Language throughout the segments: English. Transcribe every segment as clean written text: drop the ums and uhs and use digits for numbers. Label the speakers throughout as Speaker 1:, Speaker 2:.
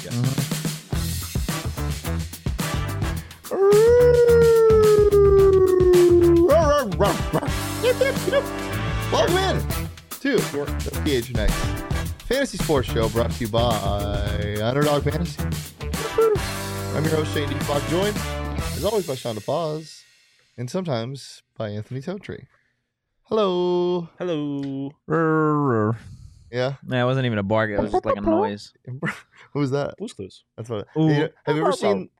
Speaker 1: Yes.
Speaker 2: Welcome in to the PHNX Fantasy Sports Show, brought to you by Underdog Fantasy. I'm your host, Shane Deepak, joined, as always, by Sean DePaz, and sometimes by Anthony Totri. Hello.
Speaker 1: Hello.
Speaker 2: Yeah?
Speaker 3: Yeah, it wasn't even a bark. It was just like a noise.
Speaker 2: Who was that?
Speaker 1: Blue's Clues.
Speaker 2: That's what.
Speaker 3: Ooh.
Speaker 2: Have you ever seen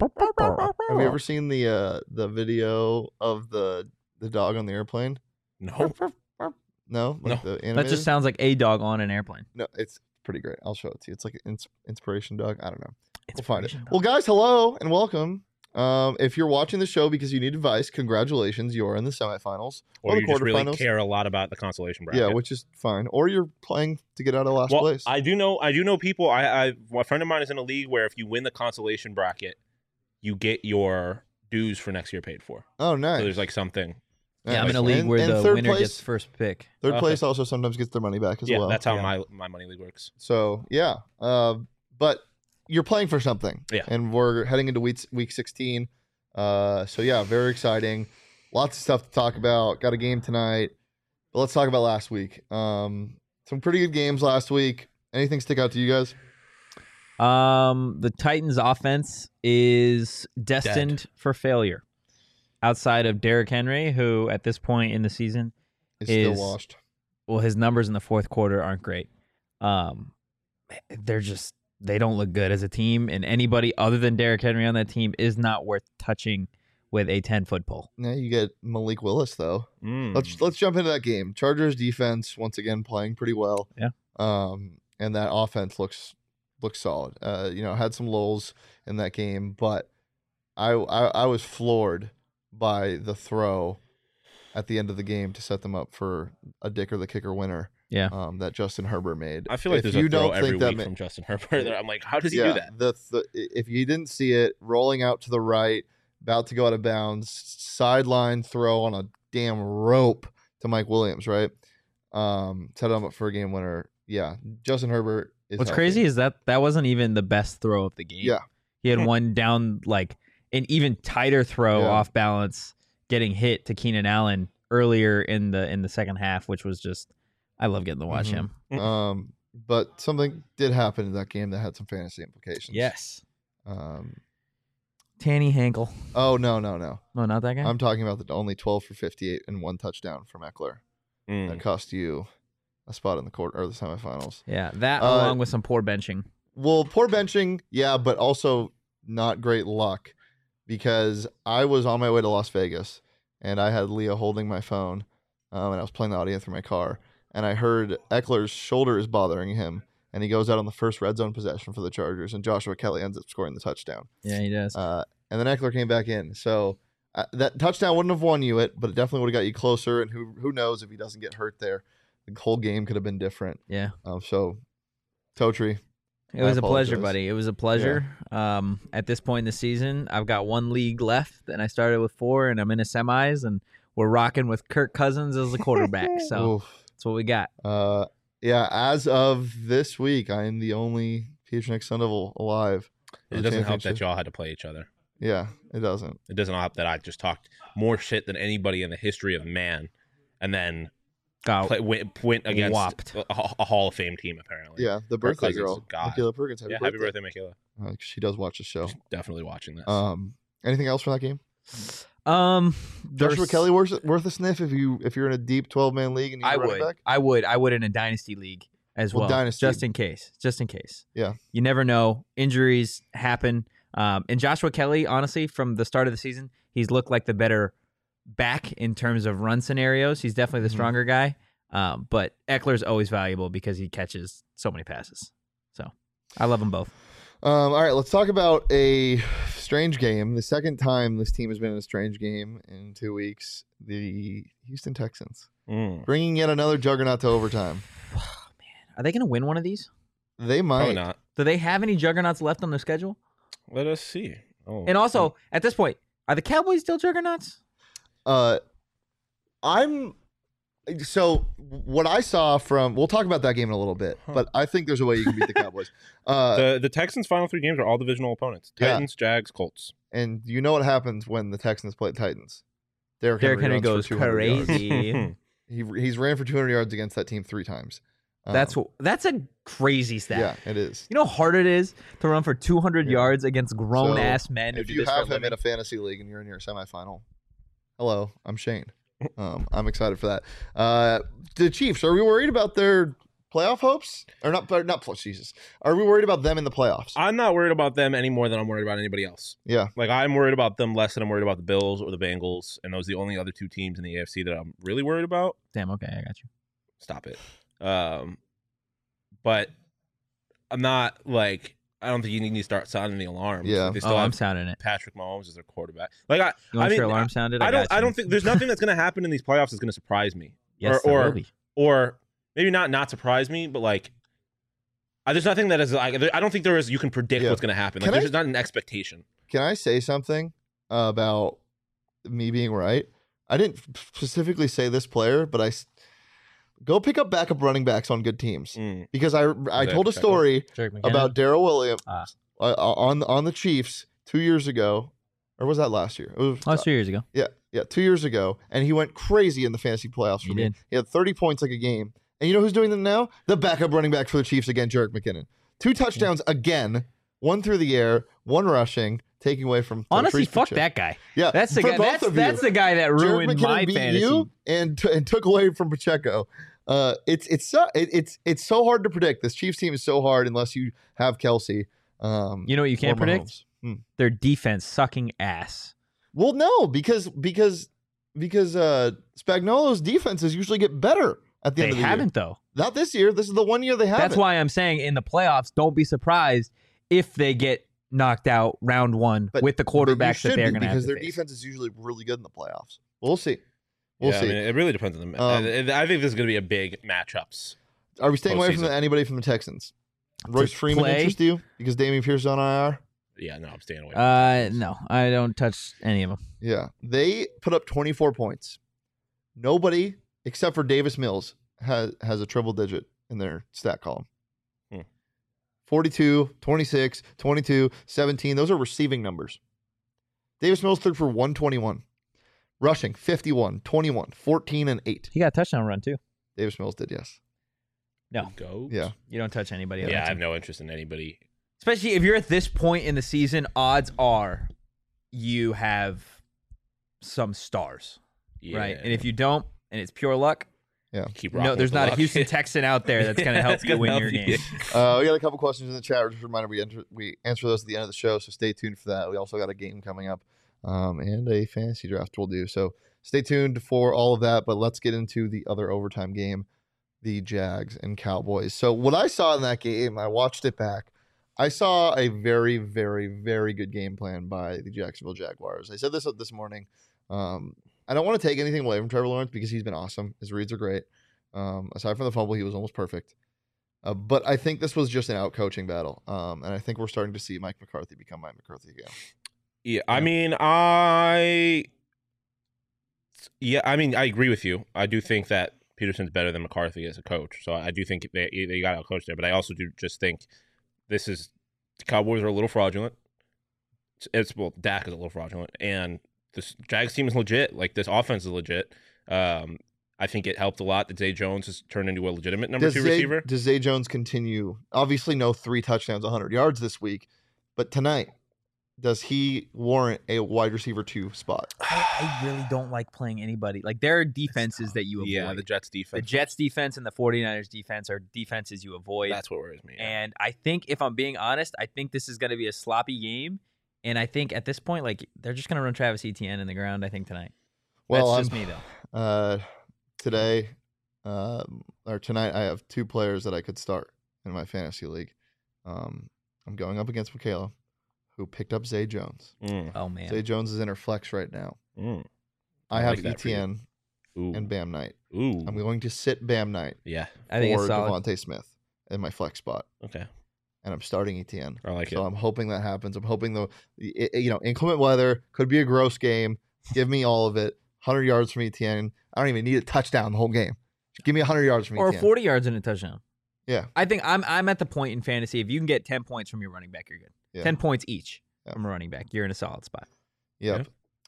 Speaker 2: the video of the dog on the airplane?
Speaker 1: No.
Speaker 2: No?
Speaker 1: No.
Speaker 2: The
Speaker 3: That
Speaker 2: animated?
Speaker 3: just sounds like a dog on an airplane.
Speaker 2: No, it's pretty great. I'll show it to you. It's like an inspiration dog. I don't know. We'll find it.
Speaker 3: Inspiration dog.
Speaker 2: Well, guys, hello and welcome. If you're watching the show because you need advice, congratulations. You're in the semifinals
Speaker 1: Or
Speaker 2: the
Speaker 1: you just really
Speaker 2: quarterfinals.
Speaker 1: care a lot about the consolation bracket.
Speaker 2: Yeah, which is fine. Or you're playing to get out of last
Speaker 1: well,
Speaker 2: place.
Speaker 1: I do know people. A friend of mine is in a league where if you win the consolation bracket, you get your dues for next year paid for.
Speaker 2: Oh, nice.
Speaker 1: So there's like something.
Speaker 3: Yeah, I'm
Speaker 2: Nice.
Speaker 3: in a league
Speaker 2: And-
Speaker 3: where
Speaker 2: and
Speaker 3: the
Speaker 2: third
Speaker 3: winner
Speaker 2: place,
Speaker 3: gets first pick.
Speaker 2: Third
Speaker 1: Okay.
Speaker 2: place also sometimes gets their money back as
Speaker 1: Yeah,
Speaker 2: well.
Speaker 1: that's how
Speaker 2: Yeah.
Speaker 1: my money league works.
Speaker 2: So yeah, but you're playing for something.
Speaker 1: Yeah.
Speaker 2: And we're heading into week 16. So yeah, very exciting. Lots of stuff to talk about. Got a game tonight. But let's talk about last week. Some pretty good games last week. Anything stick out to you guys?
Speaker 3: The Titans' offense is destined for failure. Outside of Derrick Henry, who at this point in the season,
Speaker 2: It's still
Speaker 3: Is-
Speaker 2: washed.
Speaker 3: well, his numbers in the fourth quarter aren't great. They don't look good as a team, and anybody other than Derrick Henry on that team is not worth touching with a 10-foot pole.
Speaker 2: Now you get Malik Willis though.
Speaker 1: Mm.
Speaker 2: Let's jump into that game. Chargers defense once again playing pretty well.
Speaker 3: Yeah.
Speaker 2: And that offense looks solid. Had some lulls in that game, but I was floored by the throw at the end of the game to set them up for a Dick or the Kicker winner.
Speaker 3: Yeah.
Speaker 2: That Justin Herbert made.
Speaker 1: I feel like
Speaker 2: If
Speaker 1: there's
Speaker 2: you
Speaker 1: a throw
Speaker 2: don't
Speaker 1: every
Speaker 2: think that
Speaker 1: week from Justin Herbert. I'm like, how does he do that?
Speaker 2: If you didn't see it, rolling out to the right, about to go out of bounds, sideline throw on a damn rope to Mike Williams, right? Set him up for a game winner. Yeah, Justin Herbert is
Speaker 3: What's
Speaker 2: healthy.
Speaker 3: crazy is that wasn't even the best throw of the game.
Speaker 2: Yeah.
Speaker 3: He had one down, like an even tighter throw
Speaker 2: Yeah.
Speaker 3: off balance, getting hit to Keenan Allen earlier in the second half, which was just, I love getting to watch
Speaker 2: Mhm.
Speaker 3: him.
Speaker 2: But something did happen in that game that had some fantasy implications.
Speaker 3: Yes.
Speaker 2: Um.
Speaker 3: Tanny Hankel.
Speaker 2: Oh no.
Speaker 3: No, not that guy.
Speaker 2: I'm talking about the only 12 for 58 and one touchdown from Eckler
Speaker 1: Mm.
Speaker 2: that cost you a spot in the quarter or the semifinals.
Speaker 3: Yeah, that
Speaker 2: Uh,
Speaker 3: along with some poor benching.
Speaker 2: Well, poor benching, yeah, but also not great luck because I was on my way to Las Vegas and I had Leah holding my phone and I was playing the audio through my car and I heard Eckler's shoulder is bothering him and he goes out on the first red zone possession for the Chargers and Joshua Kelly ends up scoring the touchdown.
Speaker 3: Yeah, he does.
Speaker 2: And then Eckler came back in. So that touchdown wouldn't have won you it, but it definitely would have got you closer. And who knows if he doesn't get hurt there. The whole game could have been different.
Speaker 3: Yeah.
Speaker 2: So, Totri,
Speaker 3: It was
Speaker 2: I
Speaker 3: a pleasure,
Speaker 2: apologize.
Speaker 3: buddy. It was a pleasure. At this point in the season, I've got one league left, and I started with 4, and I'm in a semis, and we're rocking with Kirk Cousins as the quarterback. So
Speaker 2: Oof.
Speaker 3: that's what we got.
Speaker 2: Yeah, as of this week, I am the only PHNX Sun Devil alive. for
Speaker 1: It
Speaker 2: the
Speaker 1: doesn't help that
Speaker 2: championship.
Speaker 1: y'all had to play each other.
Speaker 2: Yeah, it doesn't.
Speaker 1: It doesn't help that I just talked more shit than anybody in the history of man, and then
Speaker 3: Got
Speaker 1: went against
Speaker 3: whopped.
Speaker 1: a Hall of Fame team apparently.
Speaker 2: Yeah, the birthday
Speaker 1: Cousins,
Speaker 2: girl,
Speaker 1: God.
Speaker 2: Michaela Perkins. Happy
Speaker 1: Yeah,
Speaker 2: birthday.
Speaker 1: happy birthday, Michaela.
Speaker 2: She does watch the show.
Speaker 1: Definitely watching this.
Speaker 2: Anything else from that game?
Speaker 3: Joshua
Speaker 2: Joshua Kelly worth a sniff if you're in a deep 12-man league and you're
Speaker 3: I
Speaker 2: running
Speaker 3: would.
Speaker 2: back.
Speaker 3: I would in a dynasty league as
Speaker 2: Well,
Speaker 3: well.
Speaker 2: dynasty.
Speaker 3: Just in case.
Speaker 2: Yeah.
Speaker 3: You never know. Injuries happen. And Joshua Kelly, honestly, from the start of the season, he's looked like the better back in terms of run scenarios. He's definitely the
Speaker 2: Mhm.
Speaker 3: stronger guy. But Eckler's always valuable because he catches so many passes. So I love them both.
Speaker 2: All right, let's talk about a strange game. The second time this team has been in a strange game in 2 weeks. The Houston Texans bringing yet another juggernaut to overtime.
Speaker 3: Are they going to win one of these?
Speaker 2: They might.
Speaker 1: Probably not.
Speaker 3: Do they have any juggernauts left on their schedule?
Speaker 1: Let us see. Oh,
Speaker 3: And also, at this point, are the Cowboys still juggernauts?
Speaker 2: I'm So what I saw from, we'll talk about that game in a little bit, but I think there's a way you can beat the Cowboys.
Speaker 1: The Texans' final 3 games are all divisional opponents:
Speaker 2: Yeah.
Speaker 1: Titans, Jags, Colts.
Speaker 2: And you know what happens when the Texans play the Titans? Derrick
Speaker 3: Derrick Henry
Speaker 2: runs
Speaker 3: goes
Speaker 2: for 200 yards.
Speaker 3: crazy.
Speaker 2: He's ran for 200 yards against that team 3 times.
Speaker 3: That's a crazy stat.
Speaker 2: Yeah, it is.
Speaker 3: You know how hard it is to run for 200 yards against grown ass men who
Speaker 2: If
Speaker 3: do
Speaker 2: you
Speaker 3: this for
Speaker 2: have
Speaker 3: a
Speaker 2: him in
Speaker 3: living?
Speaker 2: a fantasy league and you're in your semifinal, hello, I'm Shane. I'm excited for that. The Chiefs, are we worried about their playoff hopes? Or not Jesus. Are we worried about them in the playoffs?
Speaker 1: I'm not worried about them any more than I'm worried about anybody else.
Speaker 2: Yeah.
Speaker 1: Like, I'm worried about them less than I'm worried about the Bills or the Bengals, and those are the only other 2 teams in the AFC that I'm really worried about.
Speaker 3: Damn, okay, I got you.
Speaker 1: Stop it. But I'm not like, I don't think you need to start sounding the alarms.
Speaker 2: Yeah.
Speaker 1: Like, they still
Speaker 3: Oh, I'm
Speaker 1: have
Speaker 3: sounding it.
Speaker 1: Patrick Mahomes as their quarterback. Like,
Speaker 3: You want your alarm sounded?
Speaker 1: I
Speaker 3: got you.
Speaker 1: don't think there's nothing that's going to happen in these playoffs that's going to surprise me.
Speaker 3: Yes, there will be.
Speaker 1: Or maybe not surprise me, but like, there's nothing that is like, I don't think there is, you can predict
Speaker 2: Yeah.
Speaker 1: what's going to happen. Like,
Speaker 2: Can
Speaker 1: there's
Speaker 2: I-
Speaker 1: just not an expectation.
Speaker 2: Can I say something about me being right? I didn't specifically say this player, but go pick up backup running backs on good teams. Because I
Speaker 1: that
Speaker 2: told a
Speaker 1: Pacheco?
Speaker 2: story
Speaker 3: Jerick McKinnon.
Speaker 2: about Darrell Williams
Speaker 3: Ah.
Speaker 2: on the Chiefs 2 years ago, or was that last year? It was,
Speaker 3: Oh, it's 2 years ago.
Speaker 2: yeah, 2 years ago, and he went crazy in the fantasy playoffs for
Speaker 3: He
Speaker 2: me.
Speaker 3: did.
Speaker 2: He had 30 points like a game, and you know who's doing them now? The backup running back for the Chiefs again, Jerick McKinnon. 2 touchdowns again, 1 through the air, 1 rushing, taking away from.
Speaker 3: Honestly,
Speaker 2: Patrice
Speaker 3: fuck
Speaker 2: Pacheco.
Speaker 3: that guy.
Speaker 2: Yeah,
Speaker 3: That's the
Speaker 2: for
Speaker 3: guy.
Speaker 2: both of you.
Speaker 3: That's the guy that
Speaker 2: Jerick
Speaker 3: ruined
Speaker 2: McKinnon
Speaker 3: my
Speaker 2: beat
Speaker 3: fantasy.
Speaker 2: you and took away from Pacheco. It's so hard to predict. This Chiefs team is so hard unless you have Kelsey.
Speaker 3: You know what you can't
Speaker 2: or
Speaker 3: predict?
Speaker 2: Mahomes. Hmm.
Speaker 3: Their defense sucking ass.
Speaker 2: Well, no, because Spagnuolo's defenses usually get better at the
Speaker 3: They
Speaker 2: end of the
Speaker 3: haven't
Speaker 2: year.
Speaker 3: though.
Speaker 2: Not this year. This is the one year they haven't.
Speaker 3: That's why I'm saying in the playoffs, don't be surprised if they get knocked out round 1
Speaker 2: But-
Speaker 3: with the
Speaker 2: But you
Speaker 3: quarterbacks that
Speaker 2: should
Speaker 3: they're
Speaker 2: be,
Speaker 3: going to have
Speaker 2: because
Speaker 3: to
Speaker 2: their
Speaker 3: face.
Speaker 2: defense is usually really good in the playoffs. We'll see. We'll
Speaker 1: Yeah,
Speaker 2: see.
Speaker 1: I mean, it really depends on the. I think this is going to be a big matchups.
Speaker 2: Are we staying away from
Speaker 1: postseason.
Speaker 2: anybody from the Texans? Royce Freeman
Speaker 3: play?
Speaker 2: interest you because Damian Pierce is on IR?
Speaker 1: Yeah, no, I'm staying away. From the Texans.
Speaker 3: No, I don't touch any of them.
Speaker 2: Yeah, they put up 24 points. Nobody except for Davis Mills has a triple digit in their stat column. 42, 26, 22, 17. Those are receiving numbers. Davis Mills threw for 121. Rushing, 51, 21, 14, and 8.
Speaker 3: He got a touchdown run too.
Speaker 2: Davis Mills did, yes.
Speaker 3: No,
Speaker 1: Go.
Speaker 2: Yeah.
Speaker 3: you don't touch anybody. on
Speaker 1: Yeah,
Speaker 3: that
Speaker 1: I have
Speaker 3: team.
Speaker 1: no interest in anybody.
Speaker 3: Especially if you're at this point in the season, odds are you have some stars,
Speaker 1: Yeah.
Speaker 3: right? And if you don't, and it's pure luck,
Speaker 1: keep
Speaker 3: no,
Speaker 1: rocking
Speaker 3: there's
Speaker 1: with the
Speaker 3: not a
Speaker 1: luck.
Speaker 3: Houston Texan out there that's going to help
Speaker 1: That's
Speaker 3: you
Speaker 1: gonna
Speaker 3: win
Speaker 1: help
Speaker 3: your
Speaker 1: you.
Speaker 3: game.
Speaker 2: We got a couple questions in the chat. Just a reminder, we answer those at the end of the show, so stay tuned for that. We also got a game coming up and a fantasy draft we'll do. So stay tuned for all of that, but let's get into the other overtime game, the Jags and Cowboys. So what I saw in that game, I watched it back. I saw a very, very, very good game plan by the Jacksonville Jaguars. I said this morning. I don't want to take anything away from Trevor Lawrence because he's been awesome. His reads are great. Aside from the fumble, he was almost perfect. But I think this was just an out-coaching battle. And I think we're starting to see Mike McCarthy become Mike McCarthy again.
Speaker 1: Yeah, I mean, I agree with you. I do think that Peterson's better than McCarthy as a coach. So I do think they got out coached there. But I also do just think the Cowboys are a little fraudulent. Dak is a little fraudulent, and this Jags team is legit. Like, this offense is legit. I think it helped a lot that Zay Jones has turned into a legitimate number 2 receiver.
Speaker 2: Does Zay Jones continue? Obviously, no 3 touchdowns, 100 yards this week. But tonight, does he warrant a wide receiver 2 spot?
Speaker 3: I really don't like playing anybody. Like, there are defenses that you avoid.
Speaker 1: Yeah, the Jets
Speaker 3: The
Speaker 1: defense.
Speaker 3: Jets defense and the 49ers defense are defenses you avoid.
Speaker 1: That's what worries me. Yeah.
Speaker 3: And I think, if I'm being honest, I think this is going to be a sloppy game. And I think at this point, like, they're just going to run Travis Etienne in the ground, I think, tonight.
Speaker 2: Well,
Speaker 3: That's just me, though.
Speaker 2: Tonight, I have 2 players that I could start in my fantasy league. I'm going up against Michaela, who picked up Zay Jones.
Speaker 3: Oh, man.
Speaker 2: Zay Jones is in her flex right now.
Speaker 1: I
Speaker 2: I have
Speaker 1: like that for you.
Speaker 2: Etienne
Speaker 1: Ooh.
Speaker 2: and Bam Knight.
Speaker 1: Ooh.
Speaker 2: I'm going to sit Bam Knight
Speaker 1: Yeah.
Speaker 3: I think
Speaker 2: or
Speaker 3: it's solid.
Speaker 2: Devontae Smith in my flex spot,
Speaker 1: Okay.
Speaker 2: and I'm starting Etienne.
Speaker 1: I like
Speaker 2: So
Speaker 1: it.
Speaker 2: I'm hoping that happens. I'm hoping inclement weather could be a gross game. Give me all of it. 100 yards from ETN. I don't even need a touchdown the whole game. Just give me 100 yards from
Speaker 3: Or
Speaker 2: ETN.
Speaker 3: 40 yards and a touchdown.
Speaker 2: Yeah.
Speaker 3: I think I'm at the point in fantasy, if you can get 10 points from your running back, you're good.
Speaker 2: Yeah.
Speaker 3: 10 points each
Speaker 2: Yeah.
Speaker 3: from a running back. You're in a solid spot.
Speaker 2: Yep.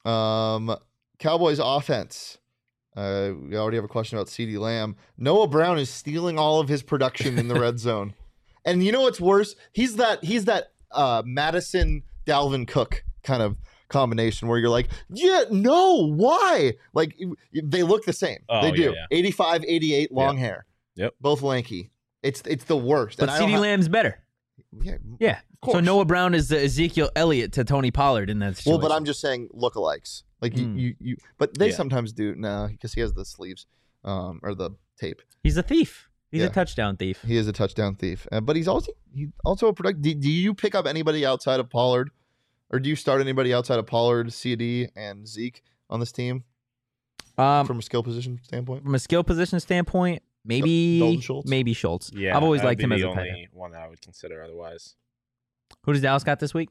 Speaker 2: Cowboys offense. We already have a question about CeeDee Lamb. Noah Brown is stealing all of his production in the red zone. And you know what's worse? He's that Madison Dalvin Cook kind of combination where you're like, yeah, no, why? Like they look the same.
Speaker 1: Oh,
Speaker 2: they do.
Speaker 1: yeah.
Speaker 2: 85, 88, long hair.
Speaker 1: Yep.
Speaker 2: Both lanky. It's the worst.
Speaker 3: But
Speaker 2: And I don't
Speaker 3: CeeDee Lamb's better.
Speaker 2: Yeah.
Speaker 3: Yeah.
Speaker 2: course.
Speaker 3: So Noah Brown is the Ezekiel Elliott to Tony Pollard in that situation.
Speaker 2: Well, but I'm just saying lookalikes. Like you but they
Speaker 1: Yeah.
Speaker 2: sometimes do because he has the sleeves or the tape.
Speaker 3: He's a thief. He's
Speaker 2: Yeah.
Speaker 3: a touchdown thief.
Speaker 2: He is a touchdown thief, but he's also a product. Do you pick up anybody outside of Pollard, or do you start anybody outside of Pollard, CD, and Zeke on this team from a skill position standpoint?
Speaker 3: From a skill position standpoint,
Speaker 2: Dalton
Speaker 3: maybe
Speaker 2: Schultz?
Speaker 3: Maybe Schultz.
Speaker 1: Yeah,
Speaker 3: I've always
Speaker 1: that would
Speaker 3: liked
Speaker 1: be
Speaker 3: him as
Speaker 1: the
Speaker 3: a tight
Speaker 1: only
Speaker 3: end.
Speaker 1: one that I would consider otherwise.
Speaker 3: Who does Dallas got this week?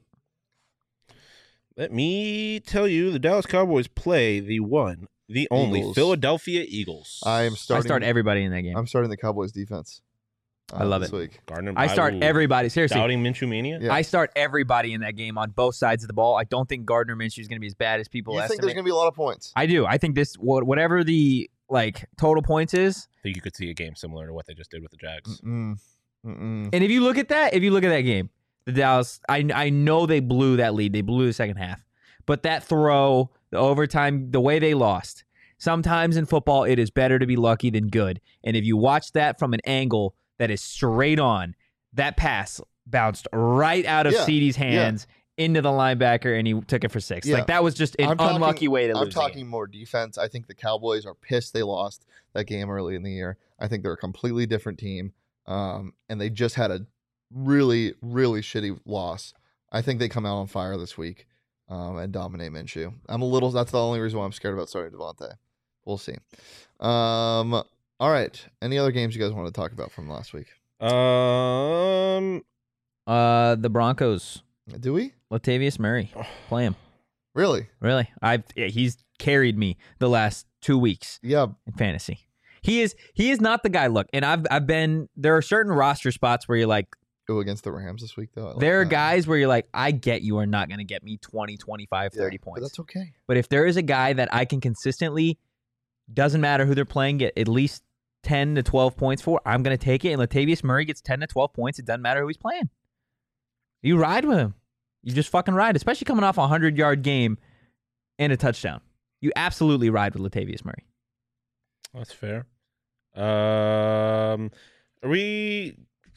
Speaker 1: Let me tell you, the Dallas Cowboys play the one, the only
Speaker 2: Eagles.
Speaker 1: Philadelphia Eagles.
Speaker 2: I start
Speaker 3: everybody in that game.
Speaker 2: I'm starting the Cowboys defense.
Speaker 3: I love
Speaker 2: this
Speaker 3: it.
Speaker 2: week.
Speaker 1: Gardner.
Speaker 3: I start everybody. Seriously,
Speaker 1: Doubting Minshew Mania.
Speaker 2: Yeah.
Speaker 3: I start everybody in that game on both sides of the ball. I don't think Gardner Minshew is going to be as bad as people
Speaker 2: You think
Speaker 3: estimate.
Speaker 2: there's going to be a lot of points?
Speaker 3: I do. I think this whatever the total points is.
Speaker 1: I think you could see a game similar to what they just did with the Jags.
Speaker 2: Mm-mm.
Speaker 3: And if you look at that game, the Dallas, I know they blew that lead. They blew the second half. But that throw, the overtime, the way they lost. Sometimes in football, it is better to be lucky than good. And if you watch that from an angle that is straight on, that pass bounced right out of
Speaker 2: Yeah,
Speaker 3: CeeDee's hands into the linebacker, and he took it for 6.
Speaker 2: Yeah.
Speaker 3: Like, that was just an unlucky way to lose
Speaker 2: I'm
Speaker 3: the game.
Speaker 2: talking more defense. I think the Cowboys are pissed they lost that game early in the year. I think they're a completely different team, and they just had a really, really shitty loss. I think they come out on fire this week and dominate Minshew. That's the only reason why I'm scared about starting Devontae. We'll see. All right. Any other games you guys want to talk about from last week?
Speaker 3: The Broncos,
Speaker 2: Do we?
Speaker 3: Latavius Murray, play him.
Speaker 2: Really?
Speaker 3: Really? He's carried me the last 2 weeks
Speaker 2: Yeah.
Speaker 3: in fantasy. He is not the guy. Look, and I've been, there are certain roster spots where you're like,
Speaker 2: Go against the Rams this week, though. I like
Speaker 3: there are
Speaker 2: that.
Speaker 3: guys where you're like, I get you are not going to get me 20, 25, 30
Speaker 2: But
Speaker 3: points.
Speaker 2: that's okay.
Speaker 3: But if there is a guy that I can consistently, doesn't matter who they're playing, get at least 10 to 12 points for, I'm going to take it. And Latavius Murray gets 10 to 12 points. It doesn't matter who he's playing. You ride with him. You just fucking ride, especially coming off a 100-yard game and a touchdown. You absolutely ride with Latavius Murray.
Speaker 1: That's fair. Are we?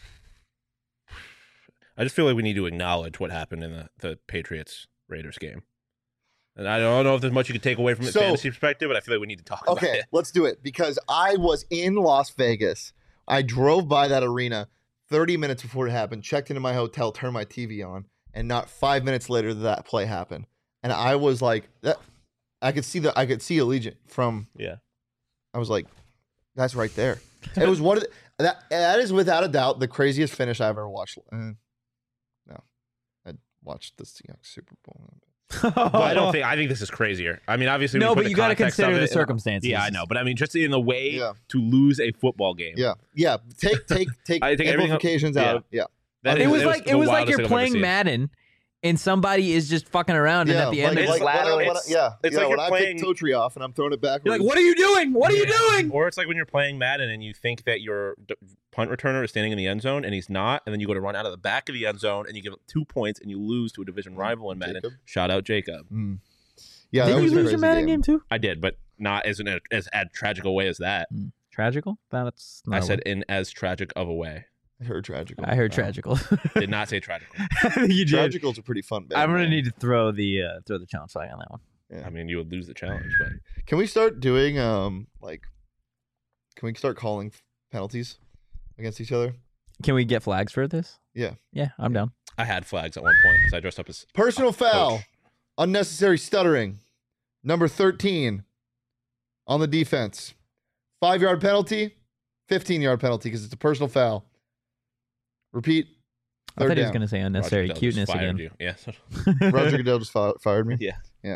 Speaker 1: I just feel like we need to acknowledge what happened in the Patriots Raiders game. And I don't know if there's much you could take away from it
Speaker 2: So-
Speaker 1: fantasy perspective, but I feel like we need to talk about
Speaker 2: Okay,
Speaker 1: it.
Speaker 2: let's do it because I was in Las Vegas. I drove by that arena 30 minutes before it happened, checked into my hotel, turned my TV on, and not 5 minutes later that play happened. And I was like, I could see Allegiant from.
Speaker 1: Yeah.
Speaker 2: I was like, that's right there. It was one of that is without a doubt the craziest finish I've ever watched. No, I watched the Seahawks Super Bowl.
Speaker 1: But I think this is crazier. I mean, obviously,
Speaker 3: No,
Speaker 1: we put
Speaker 3: but
Speaker 1: the
Speaker 3: you got to
Speaker 1: context of
Speaker 3: consider the
Speaker 1: it-
Speaker 3: circumstances.
Speaker 1: Yeah, I know, but I mean, just in the way
Speaker 2: Yeah.
Speaker 1: to lose a football game.
Speaker 2: Yeah. Take
Speaker 1: I take everything-
Speaker 2: implications out. Yeah.
Speaker 1: That
Speaker 3: It
Speaker 1: is-
Speaker 3: was
Speaker 1: the
Speaker 3: like
Speaker 1: wildest
Speaker 3: you're
Speaker 1: thing I've ever
Speaker 3: playing
Speaker 1: seen.
Speaker 3: Madden and somebody is just fucking around and at the end
Speaker 2: like,
Speaker 3: of
Speaker 2: like,
Speaker 3: the ladder.
Speaker 2: when I-
Speaker 1: it's
Speaker 2: yeah,
Speaker 1: like
Speaker 2: when
Speaker 1: you're
Speaker 2: I
Speaker 1: playing-
Speaker 2: pick toe tree off and I'm throwing it backwards.
Speaker 3: You're like, what are you doing? What are you doing?
Speaker 1: Or it's like when you're playing Madden and you think that your punt returner is standing in the end zone and he's not, and then you go to run out of the back of the end zone and you give up 2 points and you lose to a division rival in Madden.
Speaker 2: Jacob?
Speaker 1: Shout out Jacob.
Speaker 2: Yeah, that
Speaker 3: Did you
Speaker 2: was a
Speaker 3: lose your
Speaker 2: crazy
Speaker 3: Madden game too?
Speaker 1: I did, but not as as tragic a way as that.
Speaker 3: Tragical? That's not
Speaker 1: I
Speaker 3: a
Speaker 1: said
Speaker 3: word.
Speaker 1: in as tragic of a way.
Speaker 2: I heard tragical.
Speaker 3: I heard tragical.
Speaker 1: Did not say tragical.
Speaker 3: You did.
Speaker 2: Tragical's a pretty fun band.
Speaker 3: I'm gonna
Speaker 2: name.
Speaker 3: need to throw the challenge flag on that one.
Speaker 2: Yeah.
Speaker 1: I mean, you would lose the challenge, but
Speaker 2: Can we start doing can we start calling penalties against each other?
Speaker 3: Can we get flags for this?
Speaker 2: Yeah.
Speaker 3: Yeah, I'm down.
Speaker 1: I had flags at one point because I dressed up as
Speaker 2: Personal foul,
Speaker 1: coach.
Speaker 2: unnecessary stuttering, number 13 on the defense. 5-yard penalty, 15-yard penalty because it's a personal foul. Repeat.
Speaker 3: I thought
Speaker 2: Third
Speaker 3: he was
Speaker 2: down.
Speaker 3: gonna say unnecessary
Speaker 1: Roger Goodell just
Speaker 3: cuteness
Speaker 1: fired
Speaker 3: again.
Speaker 1: you. Yeah.
Speaker 2: Roger Goodell just fired me.
Speaker 1: Yeah.
Speaker 2: Yeah.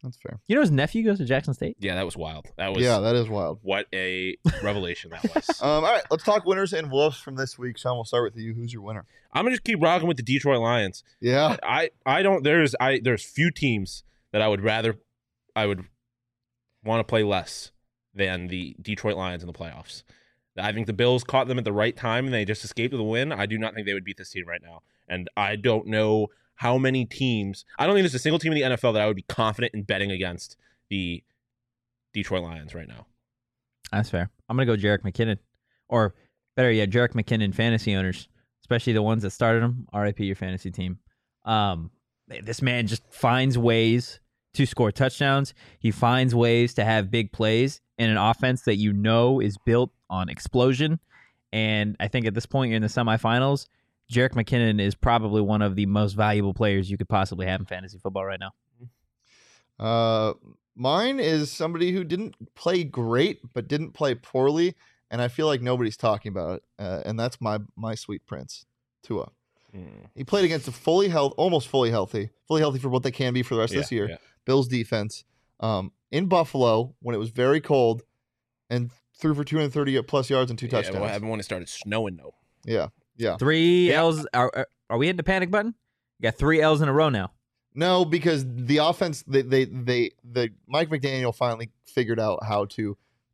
Speaker 2: That's fair.
Speaker 3: You know his nephew goes to Jackson State?
Speaker 1: Yeah, that was wild. That was
Speaker 2: Yeah, that is wild.
Speaker 1: what a revelation that was.
Speaker 2: All right, let's talk winners and wolves from this week. Sean, we'll start with you. Who's your winner?
Speaker 1: I'm gonna just keep rocking with the Detroit Lions.
Speaker 2: Yeah.
Speaker 1: I don't. There's few teams that I would want to play less than the Detroit Lions in the playoffs. I think the Bills caught them at the right time and they just escaped with a win. I do not think they would beat this team right now. And I don't know how many teams. I don't think there's a single team in the NFL that I would be confident in betting against the Detroit Lions right now.
Speaker 3: That's fair. I'm going to go Jerick McKinnon. Or better yet, Jerick McKinnon fantasy owners, especially the ones that started him. RIP your fantasy team. This man just finds ways to score touchdowns. He finds ways to have big plays in an offense that you know is built on explosion. And I think at this point, you're in the semifinals. Jerick McKinnon is probably one of the most valuable players you could possibly have in fantasy football right now.
Speaker 2: Mine is somebody who didn't play great, but didn't play poorly, and I feel like nobody's talking about it. And that's my sweet prince, Tua. He played against almost fully healthy for what they can be for the rest of this year.
Speaker 1: Yeah.
Speaker 2: Bills defense in Buffalo when it was very cold, and threw for 230 plus yards and 2 touchdowns.
Speaker 1: What happened when it started snowing though?
Speaker 2: Yeah.
Speaker 3: 3 L's. Are we hitting the panic button? You got 3 L's in a row now.
Speaker 2: No, because the offense, the Mike McDaniel finally figured out how to